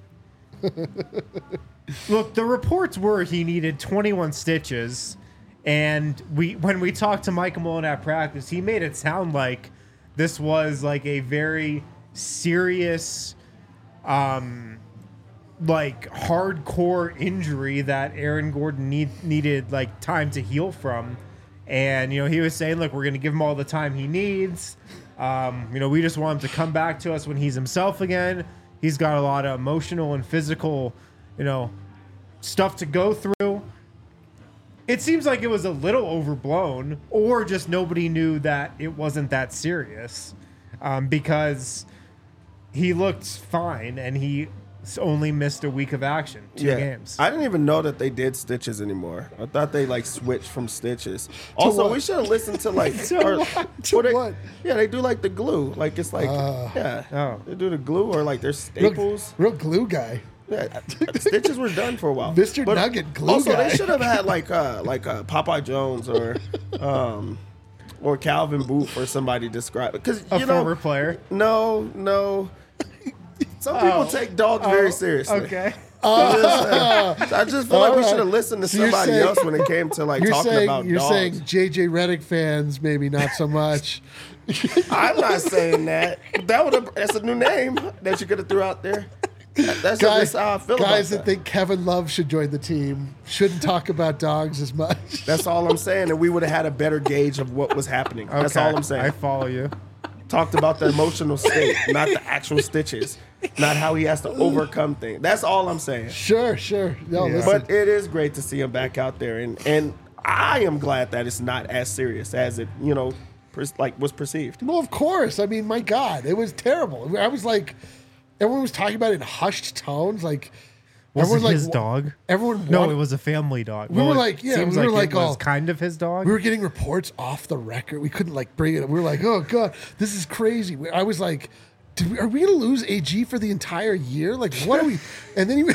Look, the reports were he needed twenty-one stitches, and we when we talked to Michael Malone at practice, he made it sound like this was like a very serious, um, like hardcore injury that Aaron Gordon need, needed like time to heal from. And, you know, he was saying, look, we're going to give him all the time he needs. Um, you know, we just want him to come back to us when he's himself again. He's got a lot of emotional and physical, you know, stuff to go through. It seems like it was a little overblown, or just nobody knew that it wasn't that serious, um, because he looked fine and he only missed a week of action, two yeah. games. I didn't even know that they did stitches anymore. I thought they like switched from stitches. Also, what? we should have listened to like to or, what? To they, what? Yeah, they do like the glue. Like it's like uh, yeah, oh. they do the glue or like their staples. Real, real glue guy. Yeah, stitches were done for a while. Mister But Nugget glue also, guy. they should have had like uh like uh, Popeye Jones or um or Calvin Booth or somebody describe it because a you know former player. No, no. Some people oh. take dogs oh. very seriously. Okay. Uh, I just feel like All we right. should have listened to So you're somebody saying- else when it came to like You're talking saying about you're dogs. saying J J Redick fans maybe not so much. I'm not saying that. That would have that's a new name that you could have threw out there. That- That's guys just how I feel guys about that think Kevin Love should join the team shouldn't talk about dogs as much. That's all I'm saying, and we would have had a better gauge of what was happening. Okay. That's all I'm saying. I follow you. Talked about the emotional state, not the actual stitches, not how he has to overcome things. That's all I'm saying. Sure, sure. No, Yeah. listen. But it is great to see him back out there, and and I am glad that it's not as serious as it you know per, like was perceived. Well, of course. I mean, my God, it was terrible. I was like, everyone was talking about it in hushed tones. Like, Was everyone it like his dog? Everyone, No, wanted- it was a family dog. We were it like, yeah, seems we were like, like it was all- kind of his dog. We were getting reports off the record. We couldn't like bring it up. We were like, oh God, this is crazy. We- I was like, Did we, are we going to lose A G for the entire year? Like, what are we? And then he,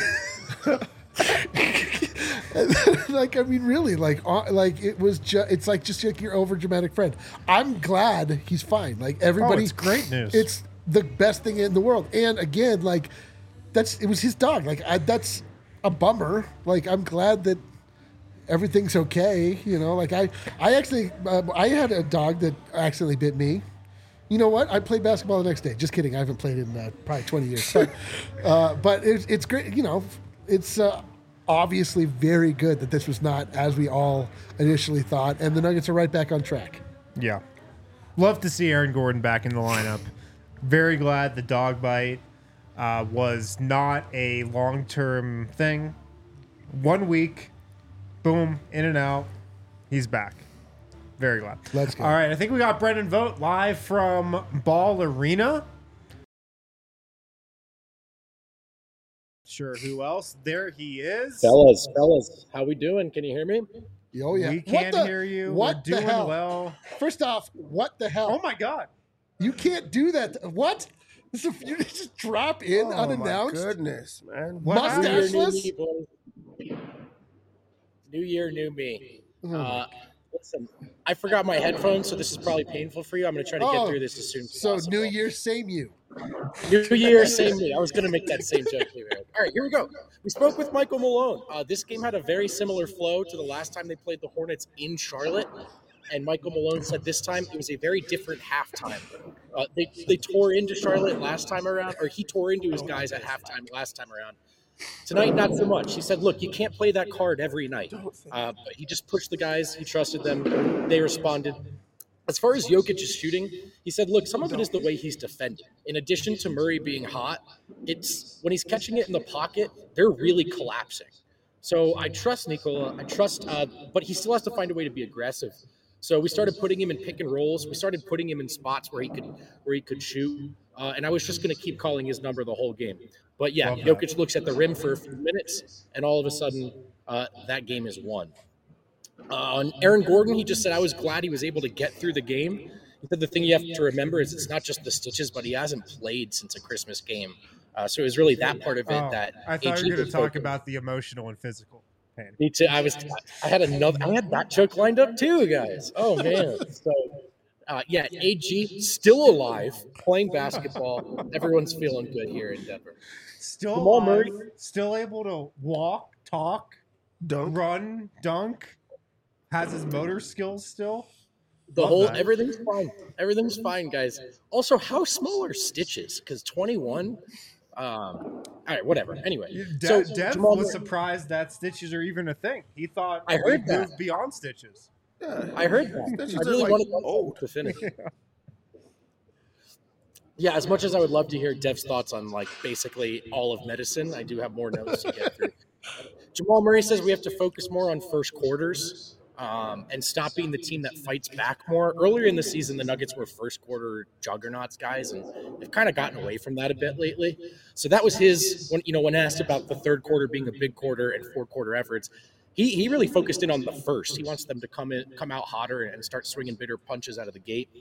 and then, like, I mean, really, like, uh, like it was just, it's like just like your over dramatic friend. I'm glad he's fine. Like everybody, Oh, it's great news. It's the best thing in the world. And again, like, that's it was his dog. Like, I, that's a bummer. Like, I'm glad that everything's okay. You know, like I, I actually, uh, I had a dog that accidentally bit me. You know what? I played basketball the next day. Just kidding. I haven't played in uh, probably twenty years. But, uh, but it's, it's great. You know, it's uh, obviously very good that this was not as we all initially thought. And the Nuggets are right back on track. Yeah. Love to see Aaron Gordon back in the lineup. Very glad the dog bite uh, was not a long-term thing. One week, boom, in and out. He's back. Very glad. Let's go. All right, I think we got Brendan Vogt live from Ball Arena. Sure, who else? There he is. Fellas, fellas, how we doing? Can you hear me? Oh, yeah. We What can the- hear you. What We're the doing hell? well. First off, what the hell? Oh, my God. You can't do that. What? This is, you just drop in Oh unannounced? my goodness, man! What Mustache- happened? New year, new Dashless? me, boys. New year, new me. Oh, Uh, listen, I forgot my headphones, so this is probably painful for you. I'm going to try to Oh, get through this as soon as So possible. New Year, same you. New year, same me. I was going to make that same joke. Too, man. All right, here we go. We spoke with Michael Malone. Uh, this game had a very similar flow to the last time they played the Hornets in Charlotte. And Michael Malone said this time it was a very different halftime. Uh, they, they tore into Charlotte last time around, or he tore into his guys at halftime last time around. Tonight, not so much. He said, look, you can't play that card every night. Uh, but he just pushed the guys. He trusted them. They responded. As far as Jokic's shooting, he said, look, some of it is the way he's defending. In addition to Murray being hot, it's when he's catching it in the pocket, they're really collapsing. So I trust Nikola. I trust, uh, but he still has to find a way to be aggressive. So we started putting him in pick and rolls. We started putting him in spots where he could where he could shoot. Uh, and I was just going to keep calling his number the whole game. But yeah, Jokic looks at the rim for a few minutes, and all of a sudden, uh, that game is won. Uh, on Aaron Gordon, he just said, I was glad he was able to get through the game. He said the thing you have to remember is it's not just the stitches, but he hasn't played since a Christmas game. Uh, so it was really that part of it Oh, that I thought A G you were going was to talk focused. about the emotional and physical pain. Me too. I was. I had another. I had that joke lined up too, guys. Oh man. So, uh, yeah, A G still alive, playing basketball. Everyone's feeling good here in Denver. Still Jamal alive, Murray. still able to walk, talk, Dunk. run, dunk, has his motor skills still. The Love whole that. everything's fine. Everything's fine, guys. Also, how small are Stitches? Because twenty-one. Um, all right, whatever. Anyway, De- so Dev Jamal was Murray- surprised that stitches are even a thing. He thought I heard we'd that. moved beyond stitches. Yeah. I heard that. Stitches I are, really like, wanted old. to finish. Yeah, as much as I would love to hear Dev's thoughts on like basically all of medicine, I do have more notes to get through. Jamal Murray says we have to focus more on first quarters um, and stop being the team that fights back more. Earlier in the season, the Nuggets were first quarter juggernauts, guys, and they've kind of gotten away from that a bit lately. So that was his when you know when asked about the third quarter being a big quarter and four quarter efforts. He, he really focused in on the first. He wants them to come in, come out hotter and start swinging bigger punches out of the gate.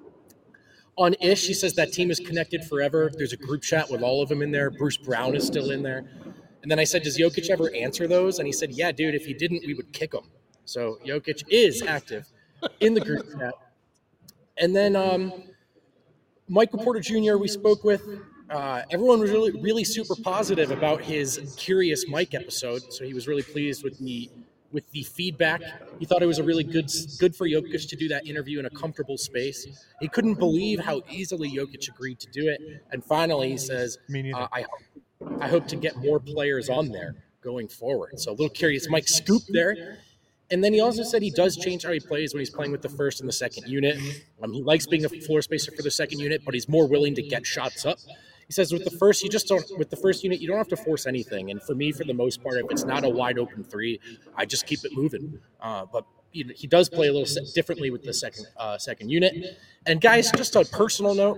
On Ish, he says that team is connected forever. There's a group chat with all of them in there. Bruce Brown is still in there. And then I said, does Jokic ever answer those? And he said, yeah, dude, if he didn't, we would kick him. So Jokic is active in the group chat. And then um, Michael Porter Junior we spoke with. Uh, everyone was really, really super positive about his Curious Mike episode. So he was really pleased with the with the feedback. He thought it was a really good good for Jokic to do that interview in a comfortable space. He couldn't believe how easily Jokic agreed to do it. And finally, he says, Me neither. uh, I, hope, I hope to get more players on there going forward. So a little Curious Mike scoop there. And then he also said he does change how he plays when he's playing with the first and the second unit. Um, he likes being a floor spacer for the second unit, but he's more willing to get shots up. He says with the first, you just don't, with the first unit, you don't have to force anything. And for me, for the most part, if it's not a wide open three, I just keep it moving. Uh, but he, he does play a little se- differently with the second uh, second unit. And guys, just a personal note,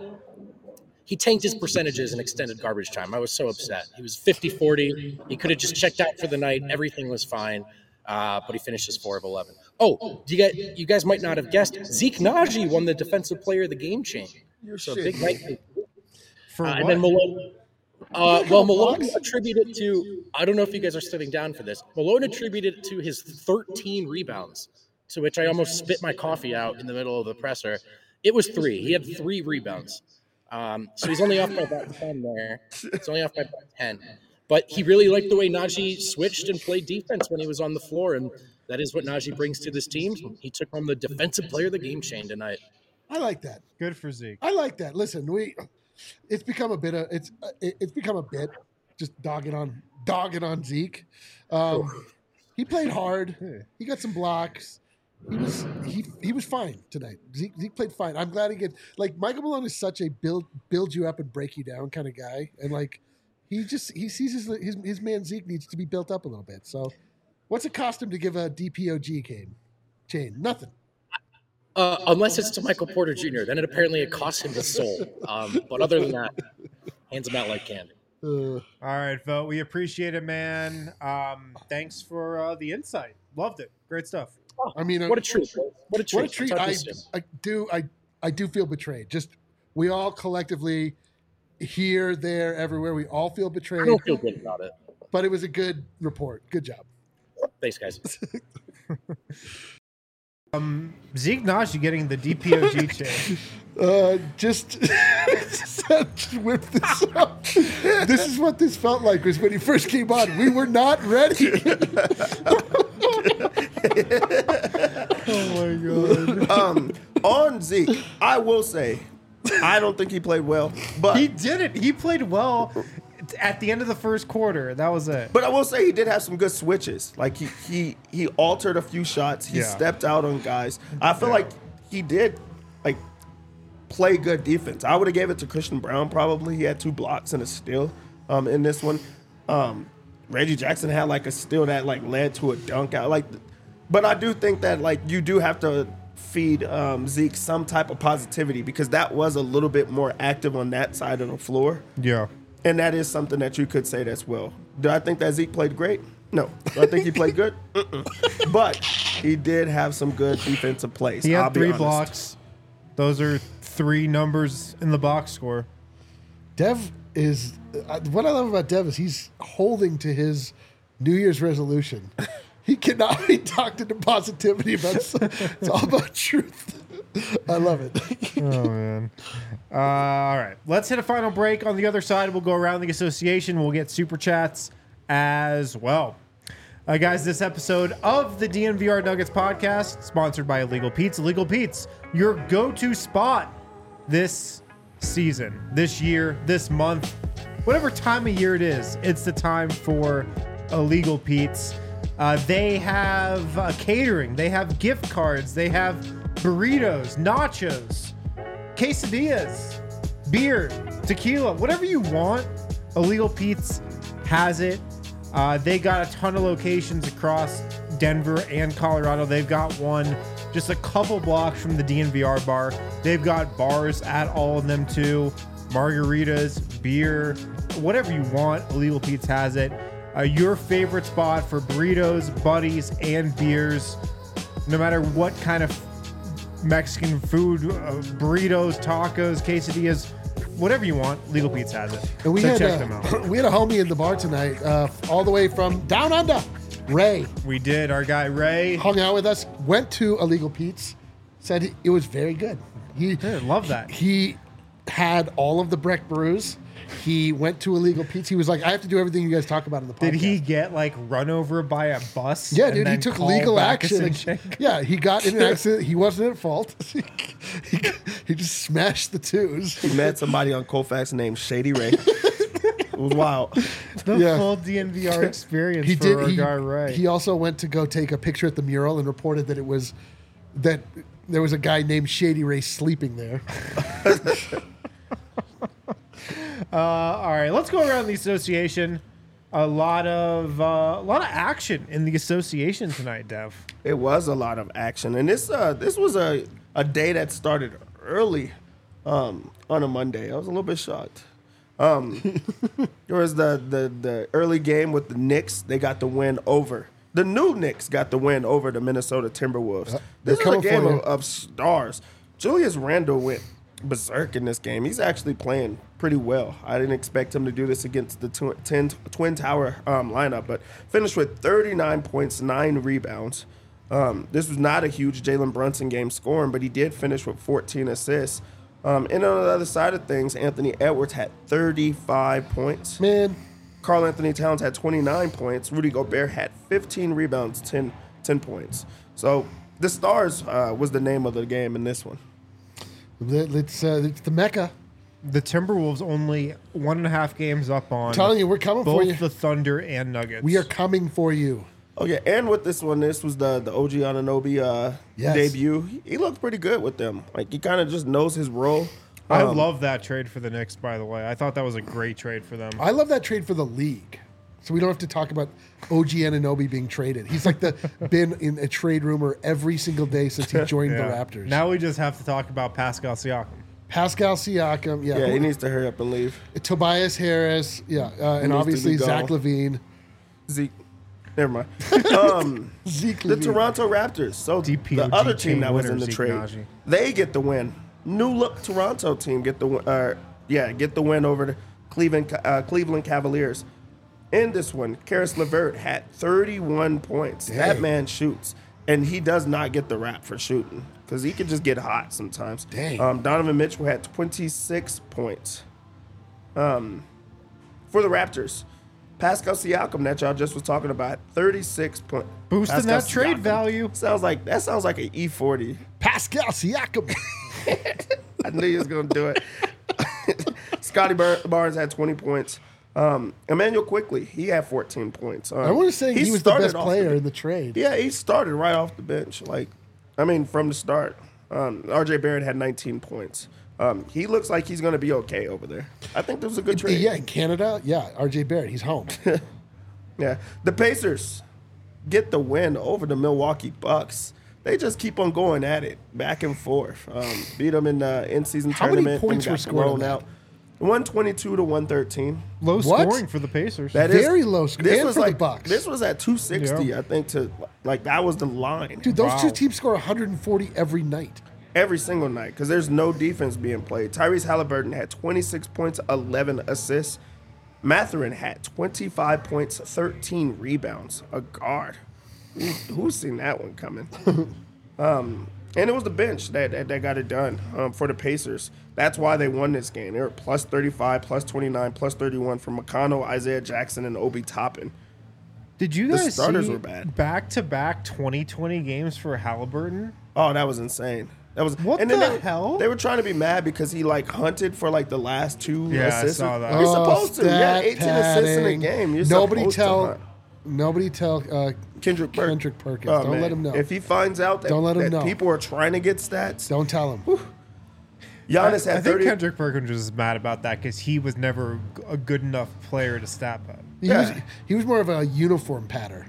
he tanked his percentages in extended garbage time. I was so upset. He was fifty forty. He could have just checked out for the night. Everything was fine. Uh, but he finishes four of eleven. Oh, do you guys, you guys might not have guessed, Zeke Naji won the Defensive Player of the Game chain. You're So shit. big night. For Uh, what? and then Malone. Uh, well, Malone attributed it to, I don't know if you guys are sitting down for this. Malone attributed it to his thirteen rebounds, to which I almost spit my coffee out in the middle of the presser. It was three. He had three rebounds. Um, so he's only off by about ten there. It's only off by about ten. But he really liked the way Najee switched and played defense when he was on the floor, and that is what Najee brings to this team. He took home the Defensive Player of the Game chain tonight. I like that. Good for Zeke. I like that. Listen, we it's become a bit of it's it- it's become a bit just dogging on dogging on Zeke. Um, he played hard. He got some blocks. He was he he was fine tonight. Zeke, Zeke played fine. I'm glad he get like Michael Malone is such a build build you up and break you down kind of guy, and like he just he sees his his his man Zeke needs to be built up a little bit. So, what's it cost him to give a D P O G chain? Chain nothing. Uh, unless it's to Michael Porter Junior Then it apparently it costs him his soul. Um, but other than that, hands him out like candy. Uh, All right, Vote. We appreciate it, man. Um, thanks for uh, the insight. Loved it. Great stuff. I mean, What a treat. What a treat. What a treat! Let's I, have this soon. I do I I do feel betrayed. Just we all collectively here, there, everywhere. We all feel I betrayed. don't feel good about it. But it was a good report. Good job. Thanks, guys. Zeke Najee getting the D P O G change. Uh, just, just whip this up. This is what this felt like was when he first came on. We were not ready. Oh my god. Um, on Zeke, I will say, I don't think he played well, but He did it. He played well at the end of the first quarter. That was it. but I will say he did have some good switches. Like he he he altered a few shots. He Yeah. stepped out on guys. I feel Yeah. like he did like play good defense. I would have gave it to Christian Brown probably. He had two blocks and a steal um, in this one. Um, Reggie Jackson had like a steal that like led to a dunk out. Like, but I do think that like you do have to feed um, Zeke some type of positivity because that was a little bit more active on that side of the floor. Yeah. And that is something that you could say that's well. Do I think that Zeke played great? No. Do I think he played good? Mm-mm. But he did have some good defensive plays. He I'll had be three honest. blocks. Those are three numbers in the box score. Dev is uh, what I love about Dev is he's holding to his New Year's resolution. He cannot be talked into positivity about. It's all about truth. I love it. Oh man. Uh, all right. Let's hit a final break. On the other side, we'll go around the association. We'll get super chats as well. Uh, guys, this episode of the D N V R Nuggets podcast, sponsored by Illegal Pete's. Illegal Pete's, your go-to spot this season, this year, this month, whatever time of year it is, it's the time for Illegal Pete's. Uh, they have uh, catering, they have gift cards, they have burritos, nachos, quesadillas, beer, tequila, whatever you want. Illegal Pete's has it. Uh, they got a ton of locations across Denver and Colorado. They've got one just a couple blocks from the D N V R bar. They've got bars at all of them too. Margaritas, beer, whatever you want. Illegal Pete's has it. Uh, your favorite spot for burritos, buddies, and beers. No matter what kind of Mexican food, uh, burritos, tacos, quesadillas, whatever you want, Legal Pete's has it. And we so had check a, them out. we had a homie in the bar tonight, uh, all the way from down under. Ray We did. Our guy Ray. hung out with us, went to Illegal Pete's, said he, it was very good. He Yeah, love that. He had all of the Breck brews. He went to Illegal Pete's. He was like, I have to do everything you guys talk about in the podcast. Did he get like run over by a bus? Yeah, and dude, he then took call legal back a action. Sinchenko? Yeah, he got in an accident. He wasn't at fault. he, he just smashed the twos. He met somebody on Colfax named Shady Ray. It was wild. The Yeah. full D N V R experience He for did. our He, guy Ray. he also went to go take a picture at the mural and reported that it was that there was a guy named Shady Ray sleeping there. Uh, all right, let's go around the association. A lot of uh, a lot of action in the association tonight, Dev. It was a lot of action, and this uh, this was a, a day that started early um, on a Monday. I was a little bit shocked. Um, there was the, the the early game with the Knicks. They got the win over the new Knicks. Got the win over the Minnesota Timberwolves. Uh, this they're is a coming for game you. of, of stars. Julius Randle went berserk in this game. He's actually playing pretty well. I didn't expect him to do this against the tw- ten, Twin Tower um, lineup, but finished with thirty-nine points, nine rebounds. Um, this was not a huge Jalen Brunson game scoring, but he did finish with fourteen assists. Um, and on the other side of things, Anthony Edwards had thirty-five points. Man, Karl Anthony Towns had twenty-nine points. Rudy Gobert had fifteen rebounds, ten, ten points. So the Stars uh, was the name of the game in this one. it's, uh, it's the Mecca. The Timberwolves only one and a half games up on I'm telling you, we're coming for both you. the Thunder and Nuggets. We are coming for you. Oh yeah, and with this one, this was the the O G Anunoby uh, Yes. debut. He, he looked pretty good with them. Like he kind of just knows his role. I Um, love that trade for the Knicks, by the way. I thought that was a great trade for them. I love that trade for the league. So we don't have to talk about O G Anunoby being traded. He's like the been in a trade rumor every single day since he joined the Yeah. Raptors. Now we just have to talk about Pascal Siakam. Pascal Siakam, yeah, Yeah, he needs to hurry up and leave. Tobias Harris, yeah, uh, and to obviously be Zach gone. Levine, Zeke, never mind. Um, Zeke the Levine. Toronto Raptors. So D P O G the other team that was winner, in the Zeke trade, Naji. they get the win. New look Toronto team get the win- uh, yeah get the win over the Cleveland uh, Cleveland Cavaliers. In this one, Karis LeVert had thirty-one points. That Dang. man shoots. and he does not get the rap for shooting because he can just get hot sometimes. Dang. Um, Donovan Mitchell had twenty-six points. Um, for the Raptors, Pascal Siakam that y'all just was talking about, thirty-six points. Boosting Pascal that trade Siakam. value. Sounds like that sounds like an E forty. Pascal Siakam. I knew he was going to do it. Scotty Bar- Barnes had twenty points. Um, Emmanuel Quickly, he had fourteen points. Um, I want to say he, was the started best off player the- in the trade. Yeah, he started right off the bench. Like, I mean, from the start. Um, R J Barrett had nineteen points. Um, he looks like he's going to be okay over there. I think this was a good trade. Yeah, in Canada, yeah, R J Barrett, he's home. Yeah. The Pacers get the win over the Milwaukee Bucks. They just keep on going at it, back and forth. Um, beat them in the in-season How many tournament. points then were got scored on blown that? out. one twenty-two to one thirteen. Low What? scoring for the Pacers. That is Very low score. This And was for the like Bucks. this was at two sixty, Yeah. I think. To like that was the line. Dude, those Wow. two teams score one hundred forty every night. Every single night because there's no defense being played. Tyrese Halliburton had twenty-six points, eleven assists. Mathurin had twenty-five points, thirteen rebounds. A guard. Who- Who's seen that one coming? um, and it was the bench that, that, that got it done um, for the Pacers. That's why they won this game. They were plus thirty-five, plus twenty-nine, plus thirty-one from McConnell, Isaiah Jackson, and Obi Toppin. Did you The guys starters see were bad. back-to-back twenty twenty games for Halliburton? Oh, that was insane. That was What and then the they, hell? They were trying to be mad because he like hunted for like the last two Yeah, I assists. saw that. You're Oh, supposed to. You had stat eighteen assists in a padding. game. You're nobody supposed tell, to hunt. nobody tell uh, Kendrick, Perk- Kendrick Perkins. Oh, Don't man. let him know. If he finds out that, Don't let him that know. people are trying to get stats, Don't tell him. Giannis I had think thirty. Kendrick Perkins was mad about that because he was never a good enough player to stat pad. He, Yeah. was, he was more of a uniform patter.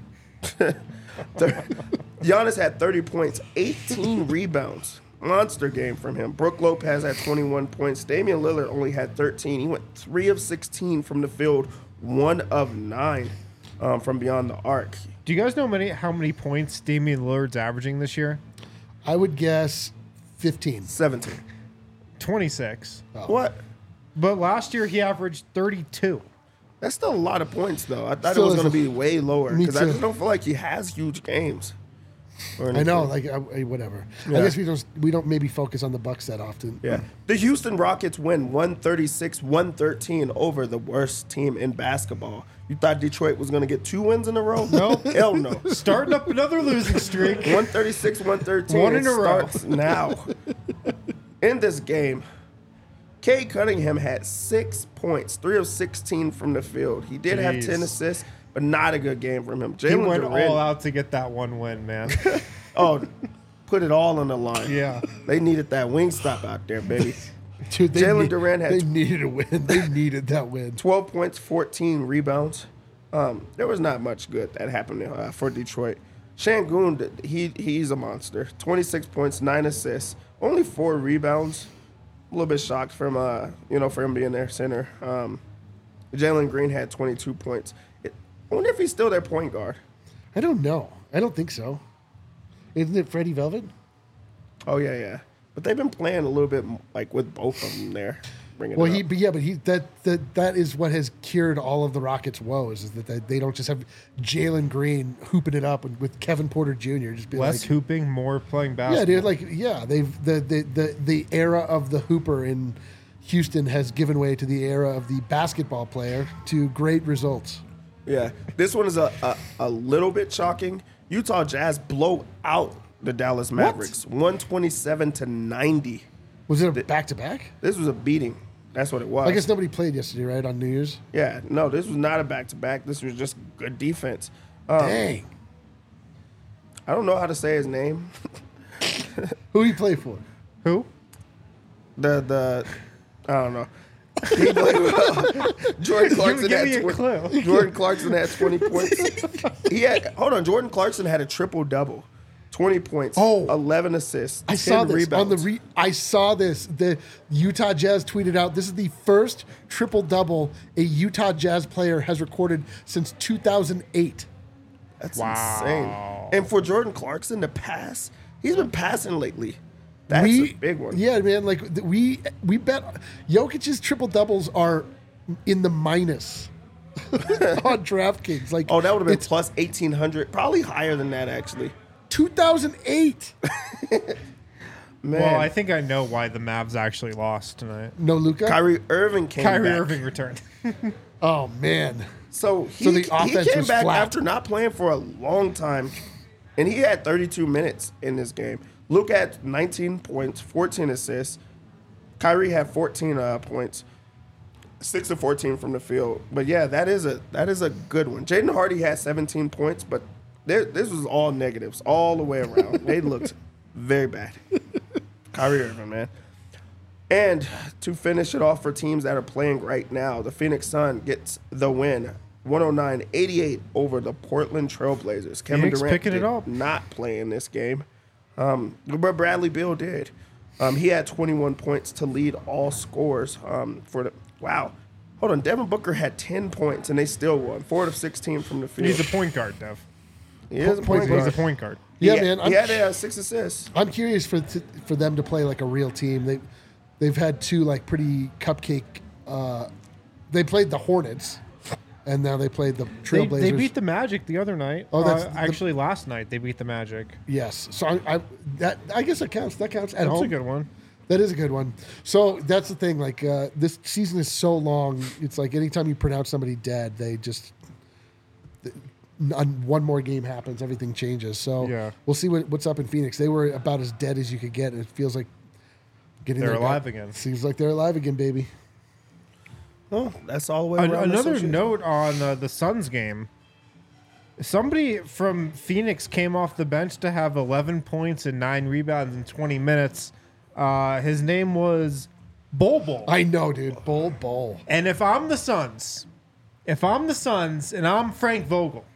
Giannis had thirty points, eighteen rebounds. Monster game from him. Brook Lopez had twenty-one points. Damian Lillard only had thirteen. He went three of sixteen from the field, one of nine um, from beyond the arc. Do you guys know many how many points Damian Lillard's averaging this year? I would guess fifteen. seventeen. twenty-six. What? But last year he averaged thirty-two. That's still a lot of points, though. I thought Still it was is going to a- be way lower Me because I too. just don't feel like he has huge games. or I know, anything. like uh, whatever. Yeah. I guess we don't we don't maybe focus on the Bucks that often. Yeah. The Houston Rockets win one thirty-six one thirteen over the worst team in basketball. You thought Detroit was going to get two wins in a row? No. Hell no. Starting up another losing streak. one thirty-six one thirteen. One in it a row. starts now. In this game, Cade Cunningham had six points, three of sixteen from the field. He did have Jeez. ten assists, but not a good game from him. He Jalen went Duren- all out to get that one win, man. Oh, put it all on the line. Yeah. They needed that wing stop out there, baby. Dude, they Jalen need- Duren had they tw- needed a win. They needed that win. twelve points, fourteen rebounds. Um, there was not much good that happened uh, for Detroit. Şengün, he he's a monster. twenty-six points, nine assists, only four rebounds. A little bit shocked from uh, you know, for him being their center. Um, Jalen Green had twenty-two points. It, I wonder if he's still their point guard. I don't know. I don't think so. Isn't it Freddie Velvet? Oh yeah, yeah. But they've been playing a little bit like with both of them there. Bringing Well, it he, up. but yeah, but he that that that is what has cured all of the Rockets' woes is that they, they don't just have Jalen Green hooping it up with, with Kevin Porter Junior Just be Less like, hooping, more playing basketball. yeah, dude, like yeah, they've the, the the the era of the hooper in Houston has given way to the era of the basketball player to great results. Yeah, this one is a, a, a little bit shocking. Utah Jazz blow out the Dallas Mavericks, one twenty-seven to ninety. Was it a back to back? This was a beating. That's what it was. I guess nobody played yesterday, right? On New Year's. Yeah, no, this was not a back to back. This was just good defense. Um, Dang. I don't know how to say his name. Who he play for? Who? The the I don't know. He played well. Jordan Clarkson give had me a twen- clue. Jordan Clarkson had twenty points. He had hold on. Jordan Clarkson had a triple double. twenty points, Oh. eleven assists, I ten saw this rebounds. on the re- I saw this. The Utah Jazz tweeted out, "This is the first triple double a Utah Jazz player has recorded since two thousand eight." That's Wow. insane. And for Jordan Clarkson to pass, he's been passing lately. That's we, a big one. Yeah, man. Like th- we we bet Jokic's triple doubles are in the minus on DraftKings. Like Oh, that would have been it's plus eighteen hundred, probably higher than that actually. two thousand eight. Man, Well, I think I know why the Mavs actually lost tonight. No Luka. Kyrie Irving came Kyrie back. Irving returned. Oh man. So he, So the he offense came was back flat. after not playing for a long time, and he had thirty-two minutes in this game. Luke had nineteen points, fourteen assists. Kyrie had fourteen uh, points, six of fourteen from the field. But yeah, that is a that is a good one. Jaden Hardy had seventeen points, but there, this was all negatives all the way around. They looked very bad. Kyrie Irving, man. And to finish it off for teams that are playing right now, the Phoenix Sun gets the win, one oh nine eighty-eight over the Portland Trailblazers. Kevin Phoenix Durant picking it did up. not play in this game, um, but Bradley Beal did. Um, he had twenty-one points to lead all scores um, for the. Wow, hold on. Devin Booker had ten points and they still won. Four out of sixteen from the field. He's a point guard, Dev. he is a point He's guard. a point guard. Yeah, he, man. He I'm, had uh, six assists. I'm curious for t- for them to play like a real team. They they've had two like pretty cupcake. Uh, they played the Hornets, and now they played the They, Trailblazers. they beat the Magic the other night. Oh, that's Uh, the- actually last night they beat the Magic. Yes. So I, I that I guess that counts. That counts at That's home. a good one. That is a good one. So that's the thing. Like uh, this season is so long. It's like anytime you pronounce somebody dead, they just th- n- one more game happens, everything changes. So Yeah. we'll see what, what's up in Phoenix. They were about as dead as you could get. It feels like getting They're their guy- alive again. Seems like they're alive again, baby. Oh, that's all the way An- around. the another association. note on uh, the Suns game. Somebody from Phoenix came off the bench to have eleven points and nine rebounds in twenty minutes. Uh, his name was Bol Bol. I know, dude. Bull, bull. And if I'm the Suns, if I'm the Suns and I'm Frank Vogel,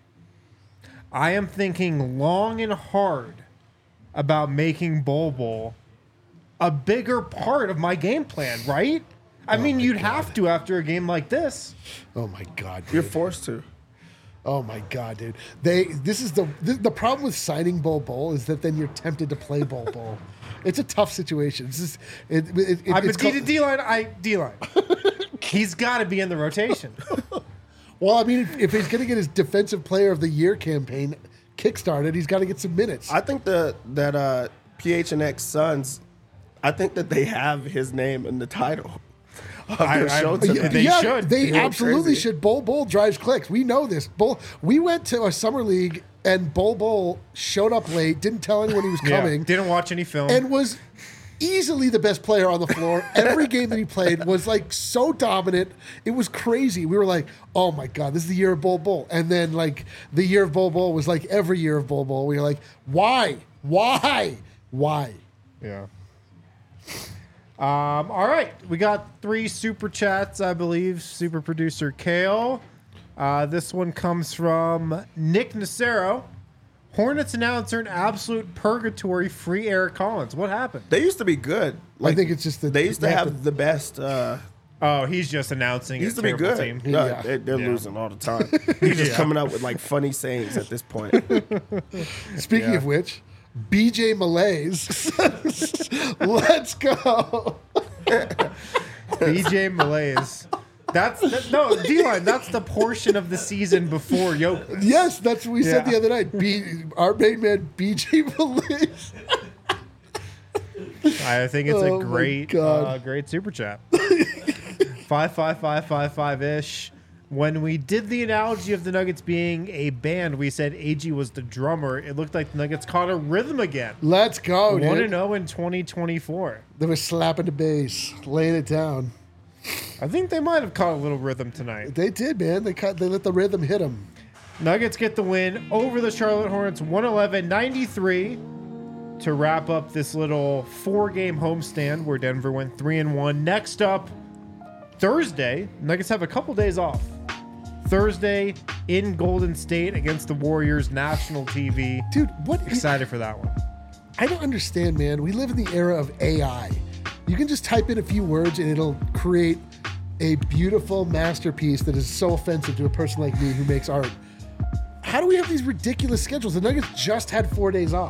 I am thinking long and hard about making Bol Bol a bigger part of my game plan, right? I mean, you'd have to after a game like this. Oh my god, dude. You're forced to. Oh my god, dude. They this is the this, the problem with signing Bol Bol is that then you're tempted to play Bol Bol. It's a tough situation. It's just, it, it, it, I'm a it's D called- D line. I D line. He's got to be in the rotation. Well, I mean, if, if he's going to get his Defensive Player of the Year campaign kickstarted, he's got to get some minutes. I think the that uh, P H N X Suns, I think that they have his name in the title of I- their I- show Yeah, tonight. they should. They You know, absolutely crazy. should. Bol Bol drives clicks. We know this. Bol. We went to a summer league, and Bol Bol showed up late, didn't tell anyone he was Yeah, coming, didn't watch any film. and was easily the best player on the floor. Every game that he played was like so dominant. It was crazy. We were like, oh my God, this is the year of Bol Bol. And then like the year of Bol Bol was like every year of Bol Bol. We were like, why? Why? Why? Yeah. Um, all right. We got three super chats, I believe. Super producer Kale. Uh, this one comes from Nick Nacero. Hornets announcer in absolute purgatory, free Eric Collins. What happened? They used to be good. I think it's just that they used to they have, have to- the best. Uh, Oh, he's just announcing he a used to be terrible good. team. No, Yeah. they, they're Yeah. losing all the time. He's just Yeah. coming up with like funny sayings at this point. Speaking Yeah. of which, B J Malaise. Let's go. B J Malaise. That's that, no D-line. That's the portion of the season before Jokic. Yes, that's what we said Yeah. the other night. B, our main man, B J Malaise. I think it's Oh a my great, God. uh, great super chat. five five five five five ish. When we did the analogy of the Nuggets being a band, we said A G was the drummer. It looked like the Nuggets caught a rhythm again. Let's go, One and dude. zero in twenty twenty four. They were slapping the bass, laying it down. I think they might have caught a little rhythm tonight. They did, man. They cut. They let the rhythm hit them. Nuggets get the win over the Charlotte Hornets, one eleven ninety-three, to wrap up this little four-game homestand where Denver went three and one. Next up, Thursday, Nuggets have a couple days off. Thursday in Golden State against the Warriors, national T V. Dude, what? Excited for that one. I don't understand, man. We live in the era of A I. You can just type in a few words and it'll create a beautiful masterpiece that is so offensive to a person like me who makes art. How do we have these ridiculous schedules? The Nuggets just had four days off.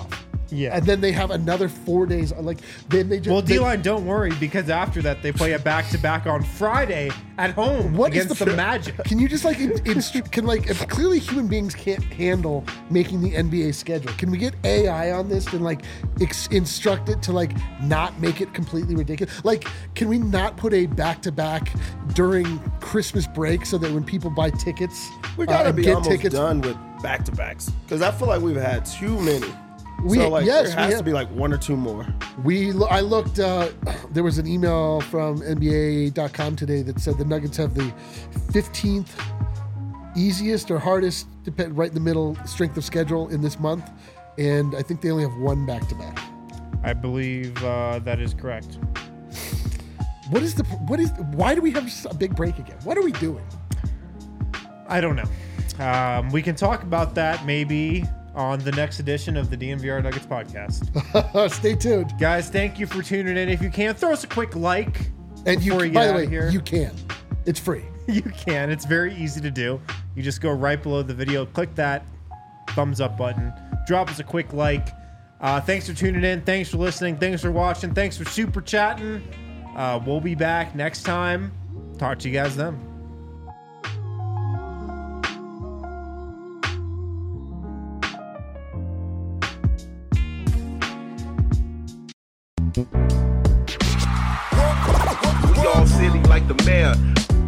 Yeah. And then they have another four days. Like then they just Well, they- D-line, don't worry, because after that they play a back-to-back on Friday at home What is against the, the, Magic. Can you just like in, instru- can like if clearly human beings can't handle making the N B A schedule? Can we get A I on this and like ex- instruct it to like not make it completely ridiculous? Like, can we not put a back to back during Christmas break so that when people buy tickets, We uh, gotta and be get almost tickets, done with back to backs because I feel like we've had too many. We- so like yes, there we has have. to be like one or two more. we lo- I looked. Uh, there was an email from N B A dot com today that said the Nuggets have the fifteenth easiest or hardest, depend, right in the middle strength of schedule in this month, and I think they only have one back to back. I believe uh, that is correct. What is the what is why do we have a big break again? What are we doing? I don't know. Um, we can talk about that maybe on the next edition of the D N V R Nuggets podcast. Stay tuned. Guys, thank you for tuning in. If you can, throw us a quick like And you, before you by get the out way, of here. you can. It's free. You can. It's very easy to do. You just go right below the video, click that thumbs up button, drop us a quick like. Uh, thanks for tuning in. Thanks for listening. Thanks for watching. Thanks for super chatting. Uh, we'll be back next time. Talk to you guys then. We all silly like the mayor.